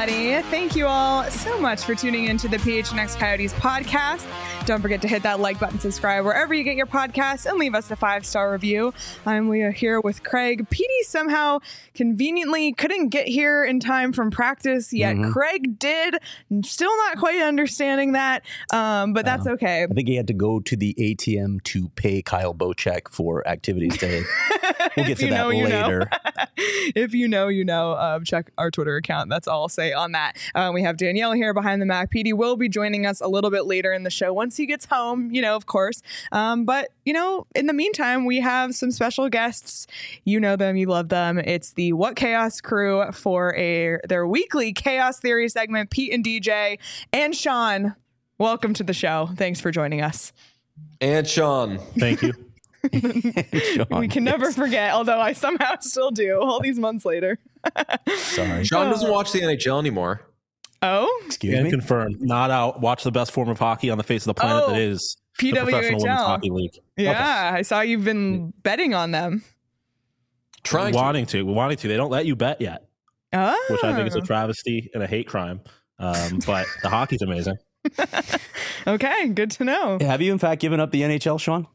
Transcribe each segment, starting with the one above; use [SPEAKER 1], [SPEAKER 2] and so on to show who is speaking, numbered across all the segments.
[SPEAKER 1] everybody. Thank you all so much for tuning into the PHNX Coyotes podcast. Don't forget to hit that like button, subscribe wherever you get your podcasts, and leave us a 5-star review. I'm Leah here with Craig. Petey somehow conveniently couldn't get here in time from practice, yet Craig did. Still not quite understanding that, but that's okay.
[SPEAKER 2] I think he had to go to the ATM to pay Kyle Bocek for activities today. We'll get to that later.
[SPEAKER 1] If you know, you know. Check our Twitter account. That's all I'll say on that. We have Danielle here behind the Mac. Petey will be joining us a little bit later in the show once he gets home, of course. But, in the meantime, we have some special guests. You know them. You love them. It's the What Chaos crew for their weekly Chaos Theory segment. Pete and DJ and Sean, welcome to the show. Thanks for joining us.
[SPEAKER 3] And Sean.
[SPEAKER 4] Thank you.
[SPEAKER 1] Sean, we can never forget, although I somehow still do all these months later.
[SPEAKER 2] Sorry.
[SPEAKER 3] Sean doesn't watch the NHL anymore.
[SPEAKER 1] Oh?
[SPEAKER 2] Excuse me?
[SPEAKER 4] Confirmed. Not out. Watch the best form of hockey on the face of the planet that is the Professional Women's Hockey League.
[SPEAKER 1] Yeah, okay. I saw you've been betting on them.
[SPEAKER 4] Wanting to. They don't let you bet yet.
[SPEAKER 1] Oh.
[SPEAKER 4] Which I think is a travesty and a hate crime. But the hockey's amazing.
[SPEAKER 1] Okay, good to know.
[SPEAKER 2] Have you in fact given up the NHL, Sean?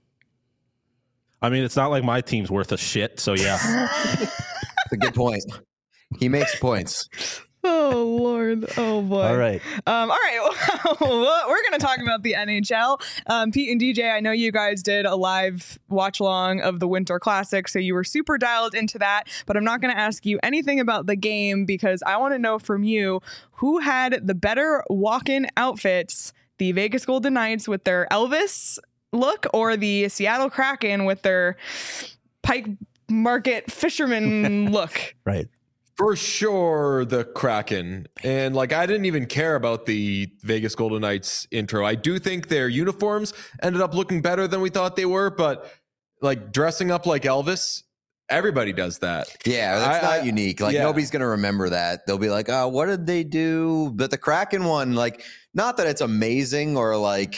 [SPEAKER 4] I mean, it's not like my team's worth a shit, so yeah.
[SPEAKER 5] That's a good point. He makes points.
[SPEAKER 1] Oh, Lord. Oh, boy.
[SPEAKER 2] All right.
[SPEAKER 1] All right. Well, we're going to talk about the NHL. Pete and DJ, I know you guys did a live watch along of the Winter Classic, so you were super dialed into that. But I'm not going to ask you anything about the game because I want to know from you who had the better walk-in outfits, the Vegas Golden Knights with their Elvis look or the Seattle Kraken with their Pike Market fisherman look.
[SPEAKER 2] Right.
[SPEAKER 3] For sure, the Kraken. And I didn't even care about the Vegas Golden Knights intro. I do think their uniforms ended up looking better than we thought they were, but dressing up like Elvis, everybody does that.
[SPEAKER 5] Yeah, that's not unique. Nobody's going to remember that. They'll be like, oh, what did they do? But the Kraken one, not that it's amazing or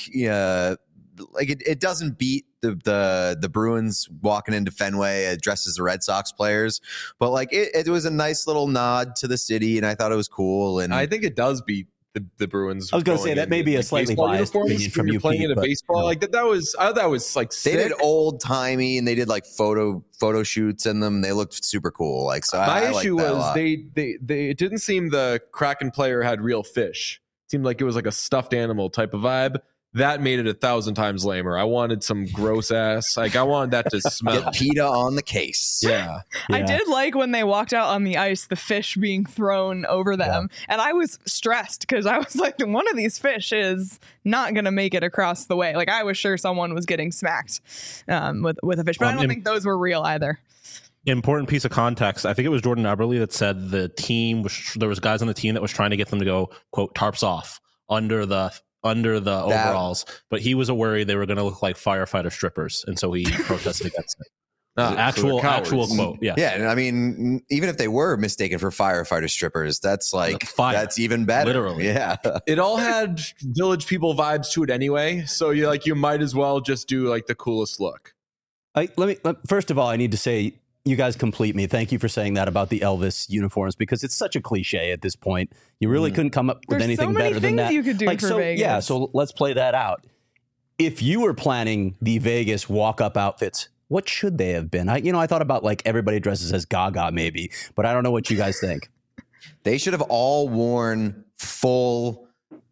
[SPEAKER 5] it doesn't beat the Bruins walking into Fenway dressed as the Red Sox players, but it was a nice little nod to the city, and I thought it was cool. And
[SPEAKER 3] I think it does beat the Bruins.
[SPEAKER 2] I was going to say that may be a slightly biased opinion from you,
[SPEAKER 3] playing
[SPEAKER 2] Pete,
[SPEAKER 3] in a baseball that was. I thought that was sick.
[SPEAKER 5] They did old timey, and they did photo shoots in them. They looked super cool.
[SPEAKER 3] My issue was they it didn't seem the Kraken player had real fish. It seemed like it was like a stuffed animal type of vibe. That made it 1,000 times lamer. I wanted some gross ass. I wanted that to smell.
[SPEAKER 5] Get PETA on the case.
[SPEAKER 3] Yeah.
[SPEAKER 1] I did like when they walked out on the ice, the fish being thrown over them. Yeah. And I was stressed because I was like, one of these fish is not going to make it across the way. I was sure someone was getting smacked with a fish, but I don't think those were real either.
[SPEAKER 4] Important piece of context. I think it was Jordan Eberle that said the team there was guys on the team that was trying to get them to go, quote, tarps off under the overalls, but he was worried they were going to look like firefighter strippers, and so he protested against it. Actual quote. Yeah.
[SPEAKER 5] Yeah. And I mean, even if they were mistaken for firefighter strippers, that's that's even better.
[SPEAKER 4] Literally.
[SPEAKER 5] Yeah.
[SPEAKER 3] It all had Village People vibes to it anyway. So you might as well just do the coolest look.
[SPEAKER 2] First of all, I need to say, you guys complete me. Thank you for saying that about the Elvis uniforms, because it's such a cliche at this point. You really couldn't come up with anything better than that.
[SPEAKER 1] You could do for Vegas.
[SPEAKER 2] Yeah, so let's play that out. If you were planning the Vegas walk-up outfits, what should they have been? I thought about everybody dresses as Gaga maybe, but I don't know what you guys think.
[SPEAKER 5] They should have all worn full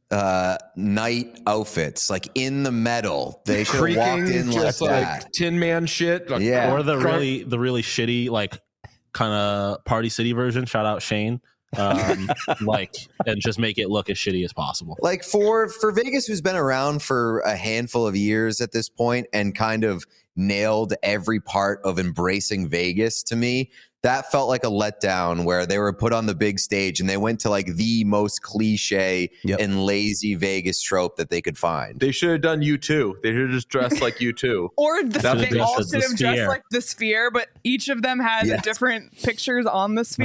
[SPEAKER 5] night outfits, in the metal. They should have walked in
[SPEAKER 3] just
[SPEAKER 5] that.
[SPEAKER 3] Tin Man shit.
[SPEAKER 5] Yeah.
[SPEAKER 4] Or the really shitty kind of Party City version. Shout out Shane. And just make it look as shitty as possible.
[SPEAKER 5] For Vegas, who's been around for a handful of years at this point and kind of nailed every part of embracing Vegas, to me, that felt like a letdown where they were put on the big stage and they went to the most cliche and lazy Vegas trope that they could find.
[SPEAKER 3] They should have done U2. They should have just dressed like U2.
[SPEAKER 1] Or they all should have dressed like the Sphere, but each of them had different pictures on the Sphere.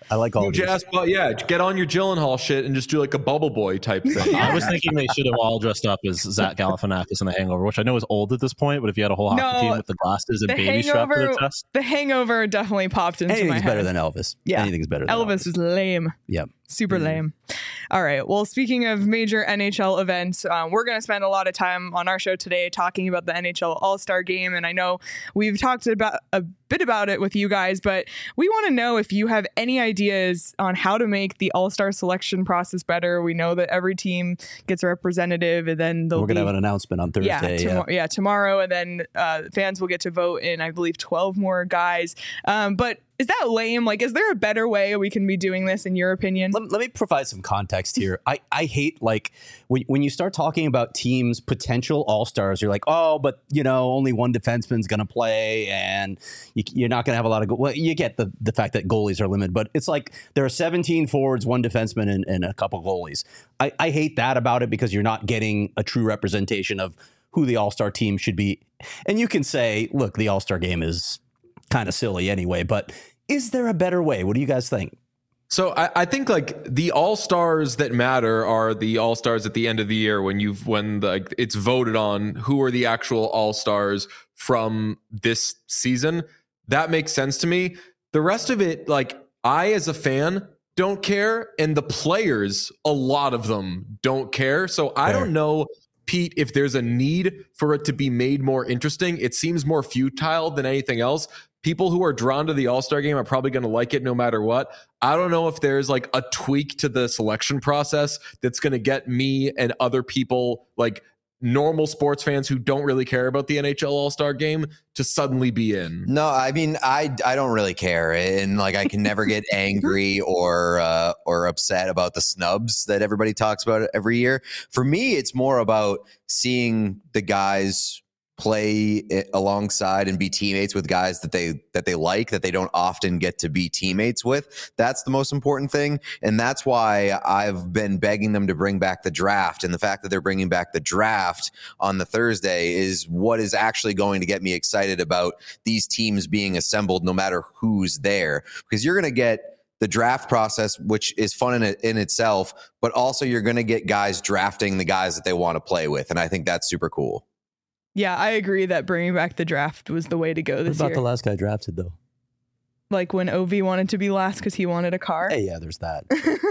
[SPEAKER 2] I like all
[SPEAKER 3] Huge
[SPEAKER 2] these.
[SPEAKER 3] ass, but yeah, get on your Gyllenhaal shit and just do like a bubble boy type thing.
[SPEAKER 4] I was thinking they should have all dressed up as Zach Galifianakis in The Hangover, which I know is old at this point, but if you had a whole hockey team with the glasses and
[SPEAKER 1] The
[SPEAKER 4] baby strapped to their chest.
[SPEAKER 1] The Hangover definitely popped into my
[SPEAKER 2] Anything's
[SPEAKER 1] head.
[SPEAKER 2] better than Elvis.
[SPEAKER 1] Yeah.
[SPEAKER 2] Anything's better than
[SPEAKER 1] Elvis is lame.
[SPEAKER 2] Yep.
[SPEAKER 1] Super lame. All right. Well, speaking of major NHL events, we're going to spend a lot of time on our show today talking about the NHL All-Star Game. And I know we've talked about a bit about it with you guys, but we want to know if you have any ideas on how to make the All-Star selection process better. We know that every team gets a representative, and then
[SPEAKER 2] We're going to have an announcement on Thursday.
[SPEAKER 1] Tomorrow, and then fans will get to vote in, I believe, 12 more guys. But is that lame? Like, is there a better way we can be doing this, in your opinion?
[SPEAKER 2] Let me provide some context here. I hate, like, when you start talking about teams' potential all-stars, you're like, oh, but, only one defenseman's going to play, and you're not going to have a lot of well, you get the fact that goalies are limited, but it's like there are 17 forwards, one defenseman, and a couple goalies. I hate that about it because you're not getting a true representation of who the all-star team should be. And you can say, look, the all-star game is kind of silly anyway, but is there a better way? What do you guys think?
[SPEAKER 3] So I think like the all-stars that matter are the all-stars at the end of the year when it's voted on who are the actual all-stars from this season. That makes sense to me. The rest of it, like, I as a fan don't care, and the players, a lot of them don't care. So I don't know, Pete, if there's a need for it to be made more interesting. It seems more futile than anything else. People who are drawn to the All-Star game are probably going to like it no matter what. I don't know if there's like a tweak to the selection process that's going to get me and other people, like normal sports fans who don't really care about the NHL All-Star game, to suddenly be in.
[SPEAKER 5] No, I mean, I don't really care, and like I can never get angry or upset about the snubs that everybody talks about every year. For me, it's more about seeing the guys play alongside and be teammates with guys that they like, that they don't often get to be teammates with. That's the most important thing. And that's why I've been begging them to bring back the draft. And the fact that they're bringing back the draft on the Thursday is what is actually going to get me excited about these teams being assembled, no matter who's there, because you're going to get the draft process, which is fun in itself, but also you're going to get guys drafting the guys that they want to play with. And I think that's super cool.
[SPEAKER 1] Yeah, I agree that bringing back the draft was the way to go this year.
[SPEAKER 2] What about the last guy drafted, though?
[SPEAKER 1] Like when Ovi wanted to be last because he wanted a car?
[SPEAKER 2] Hey, yeah, there's that.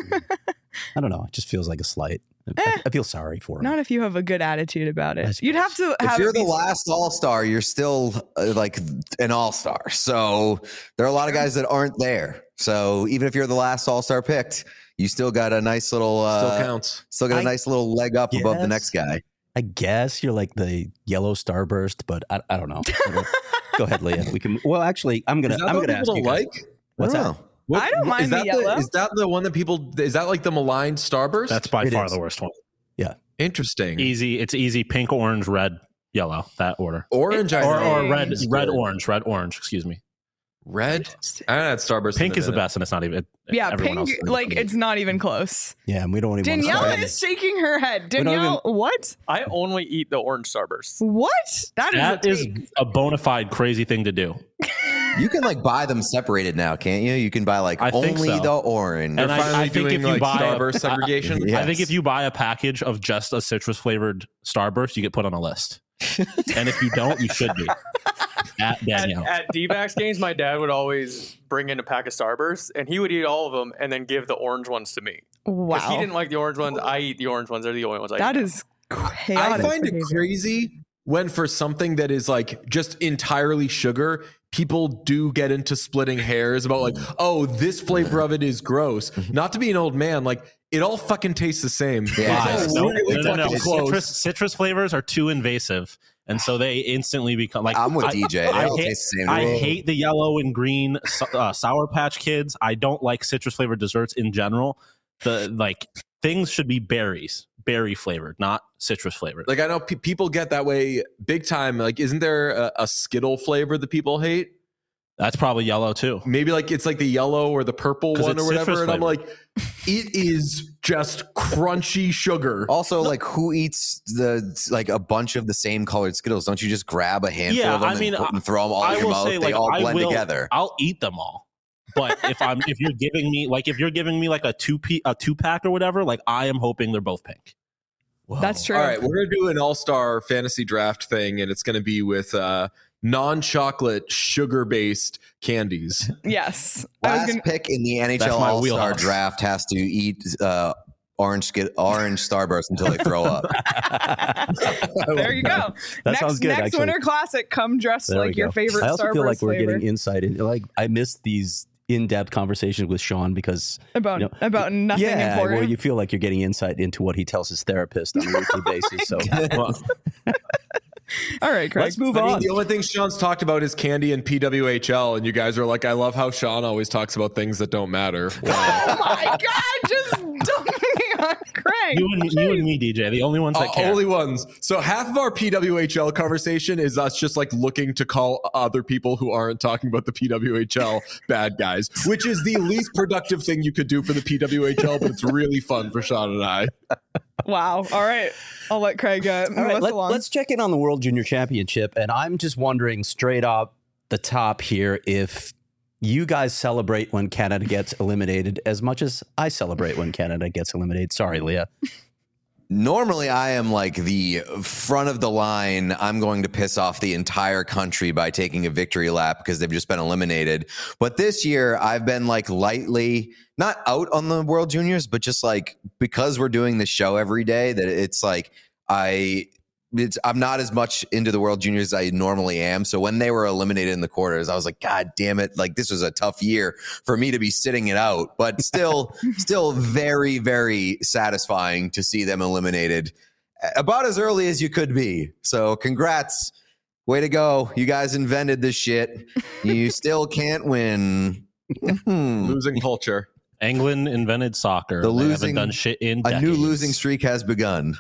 [SPEAKER 2] I don't know. It just feels like a slight. I feel sorry for him.
[SPEAKER 1] Not if you have a good attitude about it. You'd have to have.
[SPEAKER 5] If you're the last all-star, you're still like an all-star. So there are a lot of guys that aren't there. So even if you're the last all-star picked, you still got a nice little
[SPEAKER 3] still counts.
[SPEAKER 5] Still got a nice little leg up above the next guy.
[SPEAKER 2] I guess you're like the yellow starburst, but I don't know. Go ahead, Leah. We can. Well, actually, I'm gonna ask you guys.
[SPEAKER 5] What's that?
[SPEAKER 1] I don't mind the yellow.
[SPEAKER 3] Is that the one that people? Is that like the maligned starburst?
[SPEAKER 4] That's by far the worst one.
[SPEAKER 2] Yeah,
[SPEAKER 3] interesting.
[SPEAKER 4] Easy. It's easy. Pink, orange, red, yellow. That order.
[SPEAKER 3] Orange,
[SPEAKER 4] or red, orange. Excuse me.
[SPEAKER 3] Red. I had starburst.
[SPEAKER 4] Pink is the best, and it's not even.
[SPEAKER 1] Yeah, pink. Like it's not even close.
[SPEAKER 2] Yeah, and we don't even.
[SPEAKER 1] Danielle is shaking her head. Danielle, what?
[SPEAKER 6] I only eat the orange starburst.
[SPEAKER 1] What?
[SPEAKER 4] That is a bona fide crazy thing to do.
[SPEAKER 5] You can like buy them separated now, can't you? You can buy like only the orange.
[SPEAKER 3] And I think if you buy Starburst segregation.
[SPEAKER 4] Yes. I think if you buy a package of just a citrus flavored Starburst, you get put on a list. And if you don't, you should be. At Danielle.
[SPEAKER 6] At D-backs games, my dad would always bring in a pack of Starbursts, and he would eat all of them and then give the orange ones to me.
[SPEAKER 1] Wow.
[SPEAKER 6] He didn't like the orange ones. I eat the orange ones. They're the only ones I eat.
[SPEAKER 1] That is chaotic.
[SPEAKER 3] I find it crazy when for something that is like just entirely sugar, people do get into splitting hairs about like, oh, this flavor of it is gross. Not to be an old man, like it all fucking tastes the same.
[SPEAKER 5] Yeah.
[SPEAKER 4] No. Citrus flavors are too invasive. And so they instantly become like.
[SPEAKER 5] I'm with DJ.
[SPEAKER 4] I hate the yellow and green Sour Patch Kids. I don't like citrus flavored desserts in general. Things should be berry flavored, not citrus flavored.
[SPEAKER 3] Like I know people get that way big time. Like, isn't there a Skittle flavor that people hate?
[SPEAKER 4] That's probably yellow too.
[SPEAKER 3] Maybe like it's like the yellow or the purple one or whatever. And I'm like, it is just crunchy sugar.
[SPEAKER 5] Also, like who eats a bunch of the same colored Skittles? Don't you just grab a handful of them and throw them all in your mouth? They all blend together.
[SPEAKER 4] I'll eat them all. But if you're giving me like a two pack or whatever, like I am hoping they're both pink.
[SPEAKER 2] Whoa.
[SPEAKER 1] That's true.
[SPEAKER 3] All right, we're gonna do an all-star fantasy draft thing, and it's gonna be with non-chocolate, sugar-based candies.
[SPEAKER 1] Yes.
[SPEAKER 5] Last pick in the
[SPEAKER 4] That's
[SPEAKER 5] NHL
[SPEAKER 4] my
[SPEAKER 5] All-Star
[SPEAKER 4] wheelhouse.
[SPEAKER 5] draft has to eat orange Starburst until they throw up.
[SPEAKER 1] There you go.
[SPEAKER 2] That sounds good,
[SPEAKER 1] Next
[SPEAKER 2] actually.
[SPEAKER 1] Winter Classic, come dressed
[SPEAKER 2] There we
[SPEAKER 1] like your
[SPEAKER 2] go.
[SPEAKER 1] favorite
[SPEAKER 2] I also
[SPEAKER 1] Starburst
[SPEAKER 2] feel like we're
[SPEAKER 1] flavor.
[SPEAKER 2] getting insight in. Like I missed these in-depth conversations with Sean because
[SPEAKER 1] about
[SPEAKER 2] you know,
[SPEAKER 1] nothing
[SPEAKER 2] yeah,
[SPEAKER 1] important.
[SPEAKER 2] well, you feel like you're getting insight into what he tells his therapist on a weekly basis. So
[SPEAKER 1] All right, Craig.
[SPEAKER 2] let's move
[SPEAKER 3] I mean,
[SPEAKER 2] on.
[SPEAKER 3] the only thing Sean's talked about is candy and PWHL, and you guys are like, I love how Sean always talks about things that don't matter. Wow.
[SPEAKER 1] Oh my God, just dump me on Craig.
[SPEAKER 4] You and me, DJ, the only ones that care.
[SPEAKER 3] Only ones. So half of our PWHL conversation is us just like looking to call other people who aren't talking about the PWHL bad guys, which is the least productive thing you could do for the PWHL, but it's really fun for Sean and I.
[SPEAKER 1] Wow. All right. I'll let Craig move
[SPEAKER 2] All right,
[SPEAKER 1] us along.
[SPEAKER 2] let's check in on the World Junior Championship. And I'm just wondering straight up the top here if you guys celebrate when Canada gets eliminated as much as I celebrate when Canada gets eliminated. Sorry, Leah.
[SPEAKER 5] Normally, I am like the front of the line. I'm going to piss off the entire country by taking a victory lap because they've just been eliminated. But this year, I've been like lightly, not out on the World Juniors, but just like because we're doing this show every day, that it's like I'm not as much into the World Juniors as I normally am. So when they were eliminated in the quarters, I was like, God damn it. Like this was a tough year for me to be sitting it out, but still very, very satisfying to see them eliminated about as early as you could be. So congrats. Way to go. You guys invented this shit. You still can't win.
[SPEAKER 3] Losing culture.
[SPEAKER 4] England invented soccer.
[SPEAKER 5] The
[SPEAKER 4] They
[SPEAKER 5] losing-
[SPEAKER 4] haven't done shit in
[SPEAKER 5] A new
[SPEAKER 4] decades.
[SPEAKER 5] losing streak has begun.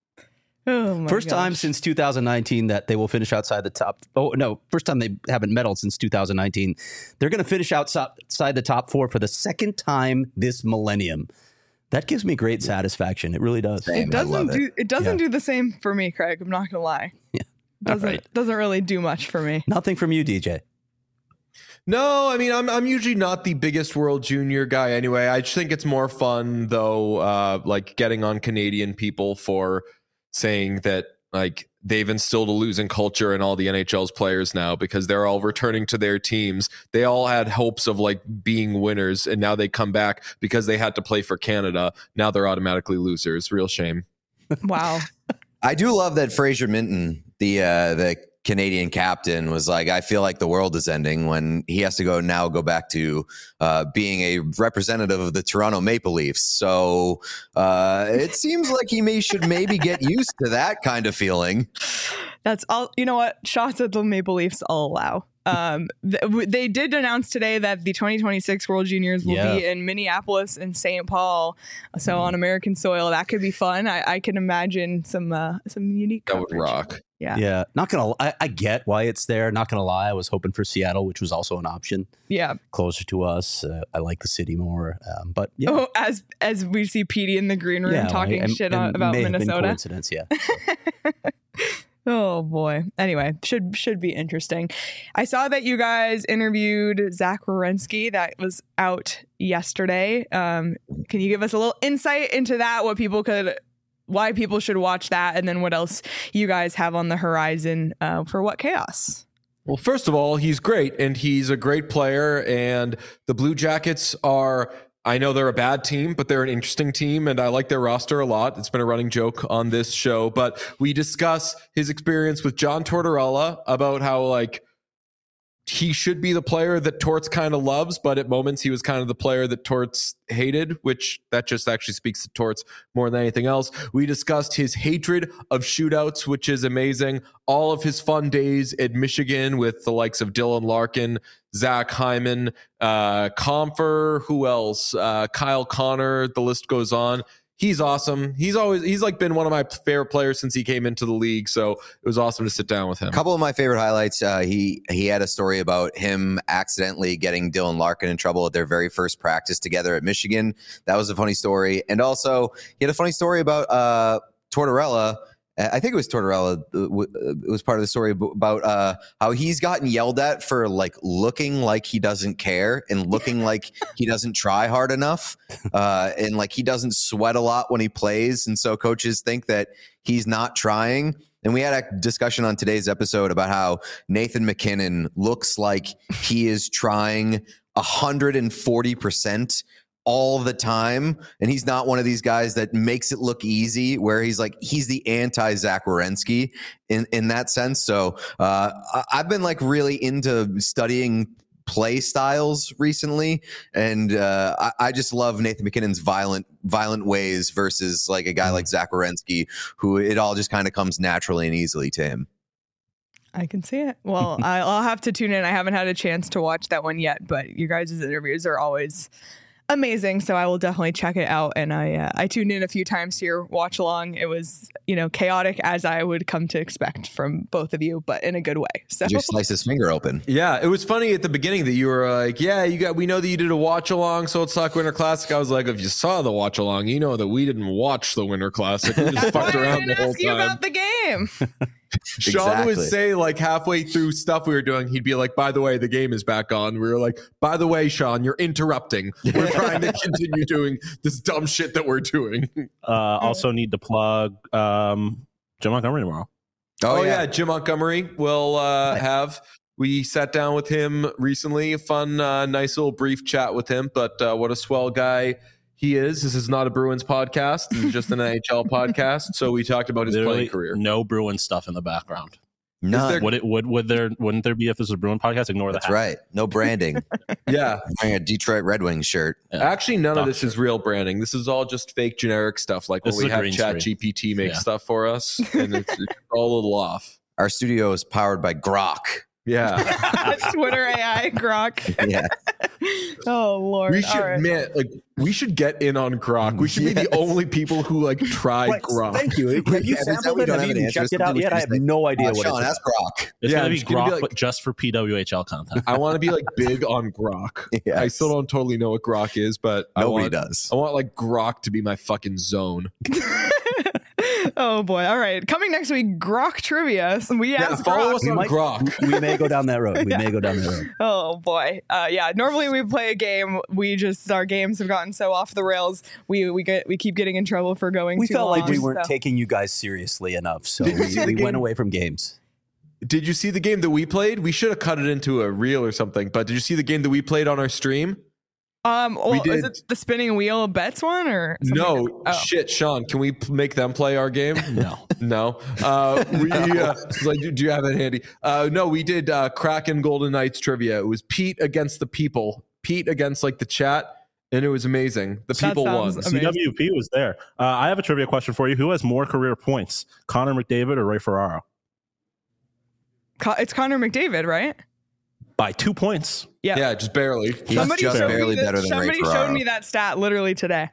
[SPEAKER 1] Oh my
[SPEAKER 2] First time
[SPEAKER 1] gosh.
[SPEAKER 2] since 2019 that they will finish outside the top. Oh, no. First time they haven't medaled since 2019. They're going to finish outside the top four for the second time this millennium. That gives me great satisfaction. It really does.
[SPEAKER 5] Same.
[SPEAKER 1] It
[SPEAKER 5] I love
[SPEAKER 1] doesn't do the same for me, Craig. I'm not gonna lie.
[SPEAKER 2] Yeah. All right.
[SPEAKER 1] Doesn't really do much for me.
[SPEAKER 2] Nothing from you, DJ.
[SPEAKER 3] No, I mean, I'm usually not the biggest World Junior guy anyway. I just think it's more fun, though, like getting on Canadian people for saying that like they've instilled a losing culture in all the NHL's players now because they're all returning to their teams. They all had hopes of like being winners, and now they come back because they had to play for Canada. Now they're automatically losers. Real shame.
[SPEAKER 1] Wow.
[SPEAKER 5] I do love that Fraser Minton, the Canadian captain, was like, I feel like the world is ending when he has to go back to being a representative of the Toronto Maple Leafs. So it seems like he should maybe get used to that kind of feeling.
[SPEAKER 1] That's all. You know what? Shots at the Maple Leafs I'll allow. They did announce today that the 2026 World Juniors will be in Minneapolis and St. Paul, so on American soil. That could be fun. I can imagine some unique
[SPEAKER 3] That would
[SPEAKER 1] coverage.
[SPEAKER 3] rock.
[SPEAKER 1] Yeah.
[SPEAKER 2] Not gonna. I get why it's there. Not gonna lie. I was hoping for Seattle, which was also an option.
[SPEAKER 1] Yeah.
[SPEAKER 2] Closer to us. I like the city more. But yeah.
[SPEAKER 1] Oh, as we see Petey in the green room
[SPEAKER 2] Yeah,
[SPEAKER 1] talking
[SPEAKER 2] and-
[SPEAKER 1] shit
[SPEAKER 2] and
[SPEAKER 1] about
[SPEAKER 2] may have been
[SPEAKER 1] Minnesota.
[SPEAKER 2] coincidence, yeah.
[SPEAKER 1] Oh boy. Anyway, should be interesting. I saw that you guys interviewed Zach Werenski. That was out yesterday. Can you give us a little insight into that? Why people should watch that, and then what else you guys have on the horizon for What Chaos?
[SPEAKER 3] Well, first of all, he's great, and he's a great player, and the Blue Jackets are, I know they're a bad team, but they're an interesting team, and I like their roster a lot. It's been a running joke on this show, but we discuss his experience with John Tortorella about how, like, he should be the player that Torts kind of loves, but at moments he was kind of the player that Torts hated, which that just actually speaks to Torts more than anything else. We discussed his hatred of shootouts, which is amazing. All of his fun days at Michigan with the likes of Dylan Larkin, Zach Hyman, Comfer, who else? Kyle Connor, the list goes on. He's awesome. He's like been one of my favorite players since he came into the league. So it was awesome to sit down with him.
[SPEAKER 5] A couple of my favorite highlights. He had a story about him accidentally getting Dylan Larkin in trouble at their very first practice together at Michigan. That was a funny story. And also he had a funny story about Tortorella I think it was Tortorella. It was part of the story about how he's gotten yelled at for like looking like he doesn't care and looking like he doesn't try hard enough, and like he doesn't sweat a lot when he plays, and so coaches think that he's not trying. And we had a discussion on today's episode about how Nathan MacKinnon looks like he is trying 140% all the time, and he's not one of these guys that makes it look easy, where he's the anti-Zach Werenski in that sense. So I've been like really into studying play styles recently, and I just love Nathan MacKinnon's violent ways versus like a guy like Zach Werenski, who it all just kind of comes naturally and easily to him.
[SPEAKER 1] I can see it. Well, I'll have to tune in. I haven't had a chance to watch that one yet, but you guys' interviews are always amazing, so I will definitely check it out. And I tuned in a few times to your watch along. It was, chaotic as I would come to expect from both of you, but in a good way. So
[SPEAKER 5] Did you slice his finger open?
[SPEAKER 3] Yeah, it was funny at the beginning that you were like, "Yeah, we know that you did a watch along, so it's like Winter Classic." I was like, "If you saw the watch along, you know that we didn't watch the Winter Classic. We just fucked around the whole
[SPEAKER 1] ask you
[SPEAKER 3] time."
[SPEAKER 1] about the game.
[SPEAKER 3] Sean would say, like, halfway through stuff we were doing, he'd be like, "By the way, the game is back on." We were like, "By the way, Sean, you're interrupting. We're trying to continue doing this dumb shit that we're doing."
[SPEAKER 4] Also need to plug Jim Montgomery tomorrow.
[SPEAKER 3] Oh yeah, Jim Montgomery will have. We sat down with him recently. A fun, nice little brief chat with him. But what a swell guy he is. This is not a Bruins podcast. This is just an NHL podcast. So we talked about his playing career.
[SPEAKER 4] No Bruins stuff in the background.
[SPEAKER 5] None.
[SPEAKER 4] Wouldn't there be if this was a Bruin podcast? Ignore that.
[SPEAKER 5] That's right. No branding.
[SPEAKER 3] Yeah.
[SPEAKER 5] I'm wearing a Detroit Red Wings shirt.
[SPEAKER 4] Yeah.
[SPEAKER 3] Actually, none of this is real branding. This is all just fake generic stuff, like when we have ChatGPT make stuff for us, and it's all a little off.
[SPEAKER 5] Our studio is powered by Grok.
[SPEAKER 3] Yeah.
[SPEAKER 1] Twitter AI Grok.
[SPEAKER 5] Yeah.
[SPEAKER 1] Oh Lord.
[SPEAKER 3] We should,
[SPEAKER 1] All right.
[SPEAKER 3] man, we should get in on Grok. We should be the only people who try Grok.
[SPEAKER 2] Thank you. Have you sampled it? Have you even checked it out yet? I have no idea what
[SPEAKER 5] Sean,
[SPEAKER 2] it is.
[SPEAKER 5] that's Grok.
[SPEAKER 4] It's
[SPEAKER 3] Yeah,
[SPEAKER 4] gonna be
[SPEAKER 3] it's gonna be
[SPEAKER 4] Grok,
[SPEAKER 3] like-
[SPEAKER 4] but just for PWHL content.
[SPEAKER 3] I want to be big on Grok.
[SPEAKER 5] Yes.
[SPEAKER 3] I still don't totally know what Grok is, but
[SPEAKER 5] Nobody does.
[SPEAKER 3] I want Grok to be my fucking zone.
[SPEAKER 1] Oh boy. All right. Coming next week, Grok trivia. So we asked
[SPEAKER 3] follow
[SPEAKER 1] Grok.
[SPEAKER 3] us on Grok.
[SPEAKER 2] We may go down that road.
[SPEAKER 1] Oh boy. Yeah. Normally we play a game. Our games have gotten so off the rails. We keep getting in trouble for going.
[SPEAKER 2] We
[SPEAKER 1] too
[SPEAKER 2] felt
[SPEAKER 1] long,
[SPEAKER 2] like we weren't
[SPEAKER 1] so.
[SPEAKER 2] taking you guys seriously enough, so
[SPEAKER 3] Did you see the
[SPEAKER 2] we
[SPEAKER 3] game?
[SPEAKER 2] went away from games.
[SPEAKER 3] Did you see the game that we played? We should have cut it into a reel or something. But did you see the game that we played on our stream?
[SPEAKER 1] Well,
[SPEAKER 3] We did-
[SPEAKER 1] is it the spinning wheel bets one or something?
[SPEAKER 3] No,
[SPEAKER 1] Oh.
[SPEAKER 3] shit, Sean. Can we make them play our game?
[SPEAKER 4] No.
[SPEAKER 3] No. Do you have it handy? No, we did Kraken Golden Knights trivia. It was Pete against the people. Pete against the chat, and it was amazing. The people won.
[SPEAKER 1] sounds amazing.
[SPEAKER 4] CWP was there. I have a trivia question for you. Who has more career points, Connor McDavid or Ray Ferraro?
[SPEAKER 1] It's Connor McDavid, right?
[SPEAKER 4] By 2 points.
[SPEAKER 3] Yeah, just barely.
[SPEAKER 5] He's just
[SPEAKER 1] showed
[SPEAKER 5] barely
[SPEAKER 1] me that-
[SPEAKER 5] better than Ray
[SPEAKER 1] somebody showed
[SPEAKER 5] Ferraro.
[SPEAKER 1] me that stat literally today.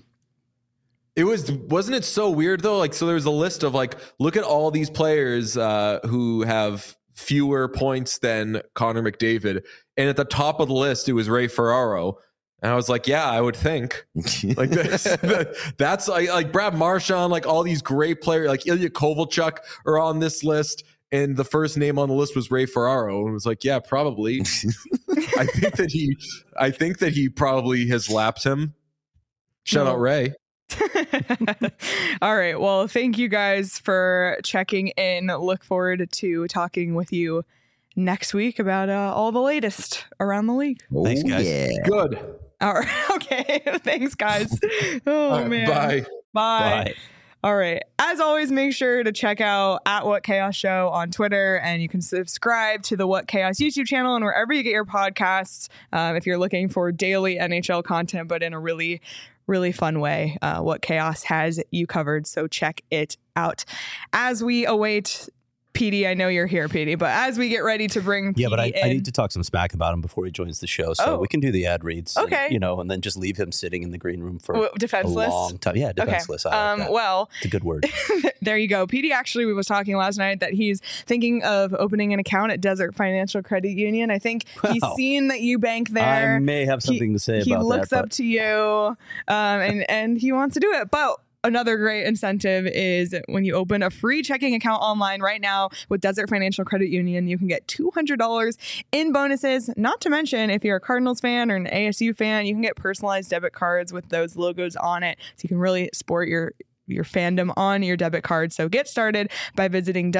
[SPEAKER 3] Wasn't it so weird though? So there's a list of look at all these players who have fewer points than Connor McDavid, and at the top of the list it was Ray Ferraro. And I was like, yeah, I would think that's like Brad Marchand, all these great players, like Ilya Kovalchuk are on this list. And the first name on the list was Ray Ferraro, and it was like, yeah, probably. I think that he probably has lapped him. Shout out Ray.
[SPEAKER 1] All right. Well, thank you guys for checking in. Look forward to talking with you next week about all the latest around the league.
[SPEAKER 2] Thanks, guys.
[SPEAKER 5] Yeah.
[SPEAKER 3] Good.
[SPEAKER 1] All right. Okay. Thanks, guys. Oh,
[SPEAKER 3] All right,
[SPEAKER 1] man.
[SPEAKER 3] bye.
[SPEAKER 1] Bye.
[SPEAKER 2] Bye.
[SPEAKER 1] All right. As always, make sure to check out @WhatChaos on Twitter, and you can subscribe to the What Chaos YouTube channel and wherever you get your podcasts. If you're looking for daily NHL content, but in a really, really fun way, What Chaos has you covered. So check it out. As we await PD, I know you're here, PD, but as we get ready to bring
[SPEAKER 2] Yeah, but I
[SPEAKER 1] PD in,
[SPEAKER 2] need to talk some smack about him before he joins the show, so
[SPEAKER 1] Oh.
[SPEAKER 2] we can do the ad reads.
[SPEAKER 1] Okay.
[SPEAKER 2] And then just leave him sitting in the green room for
[SPEAKER 1] defenseless.
[SPEAKER 2] a long time. Yeah, defenseless.
[SPEAKER 1] Okay.
[SPEAKER 2] I like that.
[SPEAKER 1] Well,
[SPEAKER 2] It's a good word.
[SPEAKER 1] there you go. PD actually was talking last night that he's thinking of opening an account at Desert Financial Credit Union. I think he's
[SPEAKER 2] Wow.
[SPEAKER 1] seen that you bank there.
[SPEAKER 2] I may have something to say
[SPEAKER 1] He
[SPEAKER 2] about
[SPEAKER 1] looks
[SPEAKER 2] that.
[SPEAKER 1] up to you, and he wants to do it. But another great incentive is when you open a free checking account online right now with Desert Financial Credit Union, you can get $200 in bonuses. Not to mention, if you're a Cardinals fan or an ASU fan, you can get personalized debit cards with those logos on it. So you can really sport your fandom on your debit card. So get started by visiting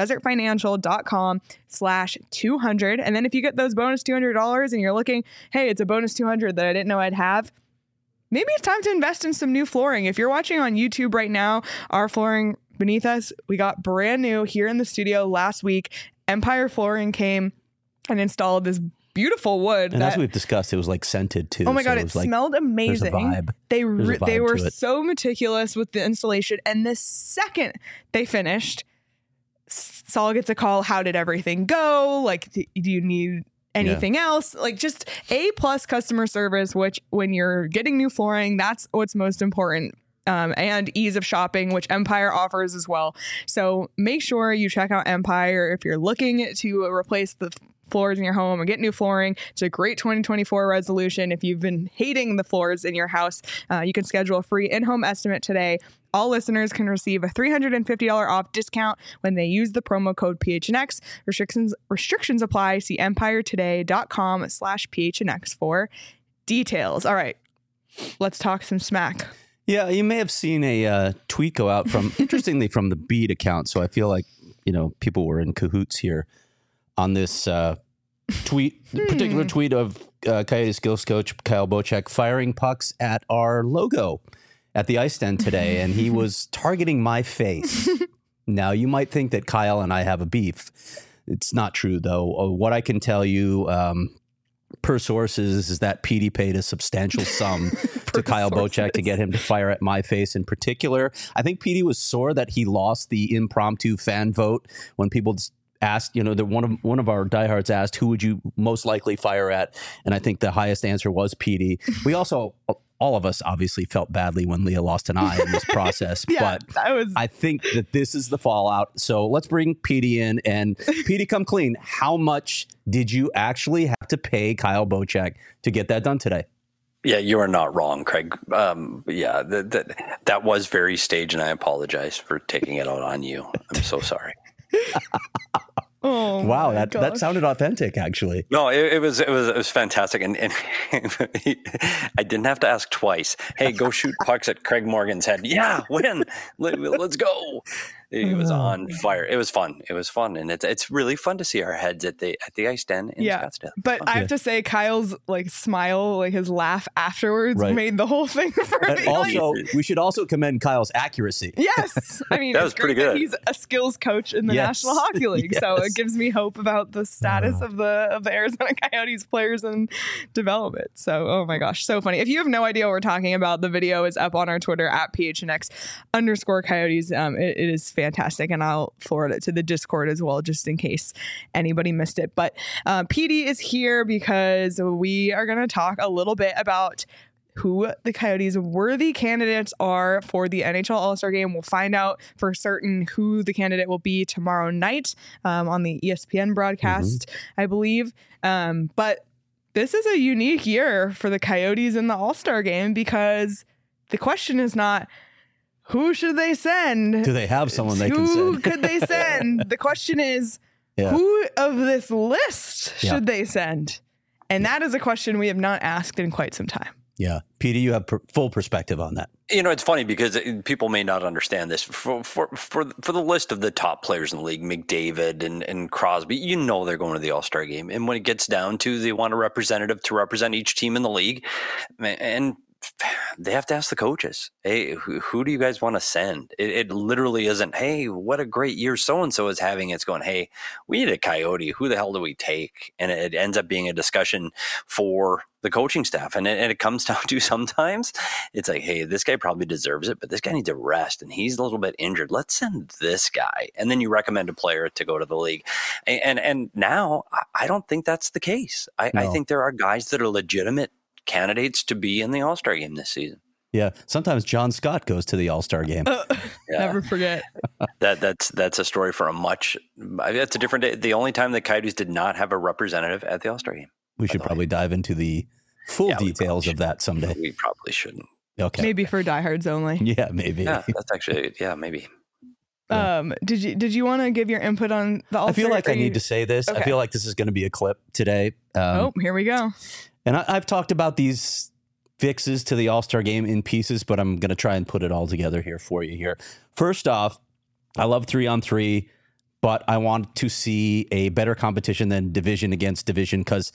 [SPEAKER 1] desertfinancial.com/200. And then if you get those bonus $200 and you're looking, hey, it's a bonus 200 that I didn't know I'd have, maybe it's time to invest in some new flooring. If you're watching on YouTube right now, our flooring beneath us, we got brand new here in the studio last week. Empire Flooring came and installed this beautiful wood.
[SPEAKER 2] And as we've discussed, it was like scented too.
[SPEAKER 1] Oh my God, it smelled amazing.
[SPEAKER 2] There's a vibe.
[SPEAKER 1] They were
[SPEAKER 2] to it.
[SPEAKER 1] so meticulous with the installation. And the second they finished, Saul gets a call. How did everything go? Like, do you need anything else? Like, just A+ customer service, which when you're getting new flooring, that's what's most important. And ease of shopping, which Empire offers as well. So make sure you check out Empire if you're looking to replace the floors in your home or get new flooring. It's a great 2024 resolution. If you've been hating the floors in your house, you can schedule a free in-home estimate today. All listeners can receive a $350 off discount when they use the promo code PHNX. Restrictions apply. See empiretoday.com/PHNX for details. All right, let's talk some smack.
[SPEAKER 2] Yeah, you may have seen a tweet go out interestingly, from the Beat account. So I feel like, people were in cahoots here on this particular tweet of Coyote skills coach Kyle Bocek firing pucks at our logo at the ice stand today, and he was targeting my face. Now, you might think that Kyle and I have a beef. It's not true, though. What I can tell you, per sources, is that Petey paid a substantial sum to Kyle Bocek to get him to fire at my face in particular. I think Petey was sore that he lost the impromptu fan vote when people asked, one of our diehards asked, who would you most likely fire at? And I think the highest answer was Petey. We also, all of us obviously felt badly when Leah lost an eye in this process, but I think that this is the fallout. So let's bring Petey in, and Petey, come clean. How much did you actually have to pay Kyle Bocek to get that done today?
[SPEAKER 7] Yeah, you are not wrong, Craig. That was very staged, and I apologize for taking it out on you. I'm so sorry.
[SPEAKER 1] Oh
[SPEAKER 2] wow, that sounded authentic, actually.
[SPEAKER 7] No, it was fantastic, and I didn't have to ask twice. Hey, go shoot pucks at Craig Morgan's head. Yeah, win. Let's go. It was on fire. It was fun. And it's really fun to see our heads at the ice stand in Scottsdale.
[SPEAKER 1] But I have to say, Kyle's smile, his laugh afterwards made the whole thing for me.
[SPEAKER 2] Also, we should also commend Kyle's accuracy.
[SPEAKER 1] Yes, I mean,
[SPEAKER 7] that was pretty good.
[SPEAKER 1] He's a skills coach in the National Hockey League, so it gives me hope about the status of the Arizona Coyotes players and development. So, oh my gosh, so funny. If you have no idea what we're talking about, the video is up on our Twitter at PHNX_Coyotes. It is fantastic, and I'll forward it to the Discord as well, just in case anybody missed it. But PD is here because we are going to talk a little bit about who the Coyotes' worthy candidates are for the NHL All-Star Game. We'll find out for certain who the candidate will be tomorrow night on the ESPN broadcast, I believe. But this is a unique year for the Coyotes in the All-Star Game, because the question is not, who should they send?
[SPEAKER 2] Do they have someone they can send?
[SPEAKER 1] Who could they send? The question is, who of this list should they send? And that is a question we have not asked in quite some time.
[SPEAKER 2] Yeah. Peter, you have full perspective on that.
[SPEAKER 7] It's funny because people may not understand this. For the list of the top players in the league, McDavid and Crosby, they're going to the All-Star Game. And when it gets down to they want a representative to represent each team in the league, and they have to ask the coaches, hey, who do you guys want to send? It literally isn't, hey, what a great year so-and-so is having. It's going, hey, we need a Coyote. Who the hell do we take? And it ends up being a discussion for the coaching staff. And it comes down to sometimes it's like, hey, this guy probably deserves it, but this guy needs a rest and he's a little bit injured. Let's send this guy. And then you recommend a player to go to the league. And now I don't think that's the case. I think there are guys that are legitimate candidates to be in the All-Star Game this season.
[SPEAKER 2] Yeah, sometimes John Scott goes to the All-Star Game.
[SPEAKER 1] Never forget.
[SPEAKER 7] That's a story for that's a different day. The only time the Coyotes did not have a representative at the All-Star Game.
[SPEAKER 2] We should probably dive into the full details of that someday.
[SPEAKER 7] We probably shouldn't.
[SPEAKER 2] Okay.
[SPEAKER 1] Maybe for diehards only.
[SPEAKER 2] Yeah, maybe.
[SPEAKER 7] Yeah, that's actually maybe.
[SPEAKER 1] Did you want to give your input on the All-Star?
[SPEAKER 2] I feel like I need to say this.
[SPEAKER 1] Okay.
[SPEAKER 2] I feel like this is going to be a clip today.
[SPEAKER 1] Here we go.
[SPEAKER 2] And I've talked about these fixes to the All-Star game in pieces, but I'm going to try and put it all together here for you here. First off, I love 3-on-3, but I want to see a better competition than division against division, because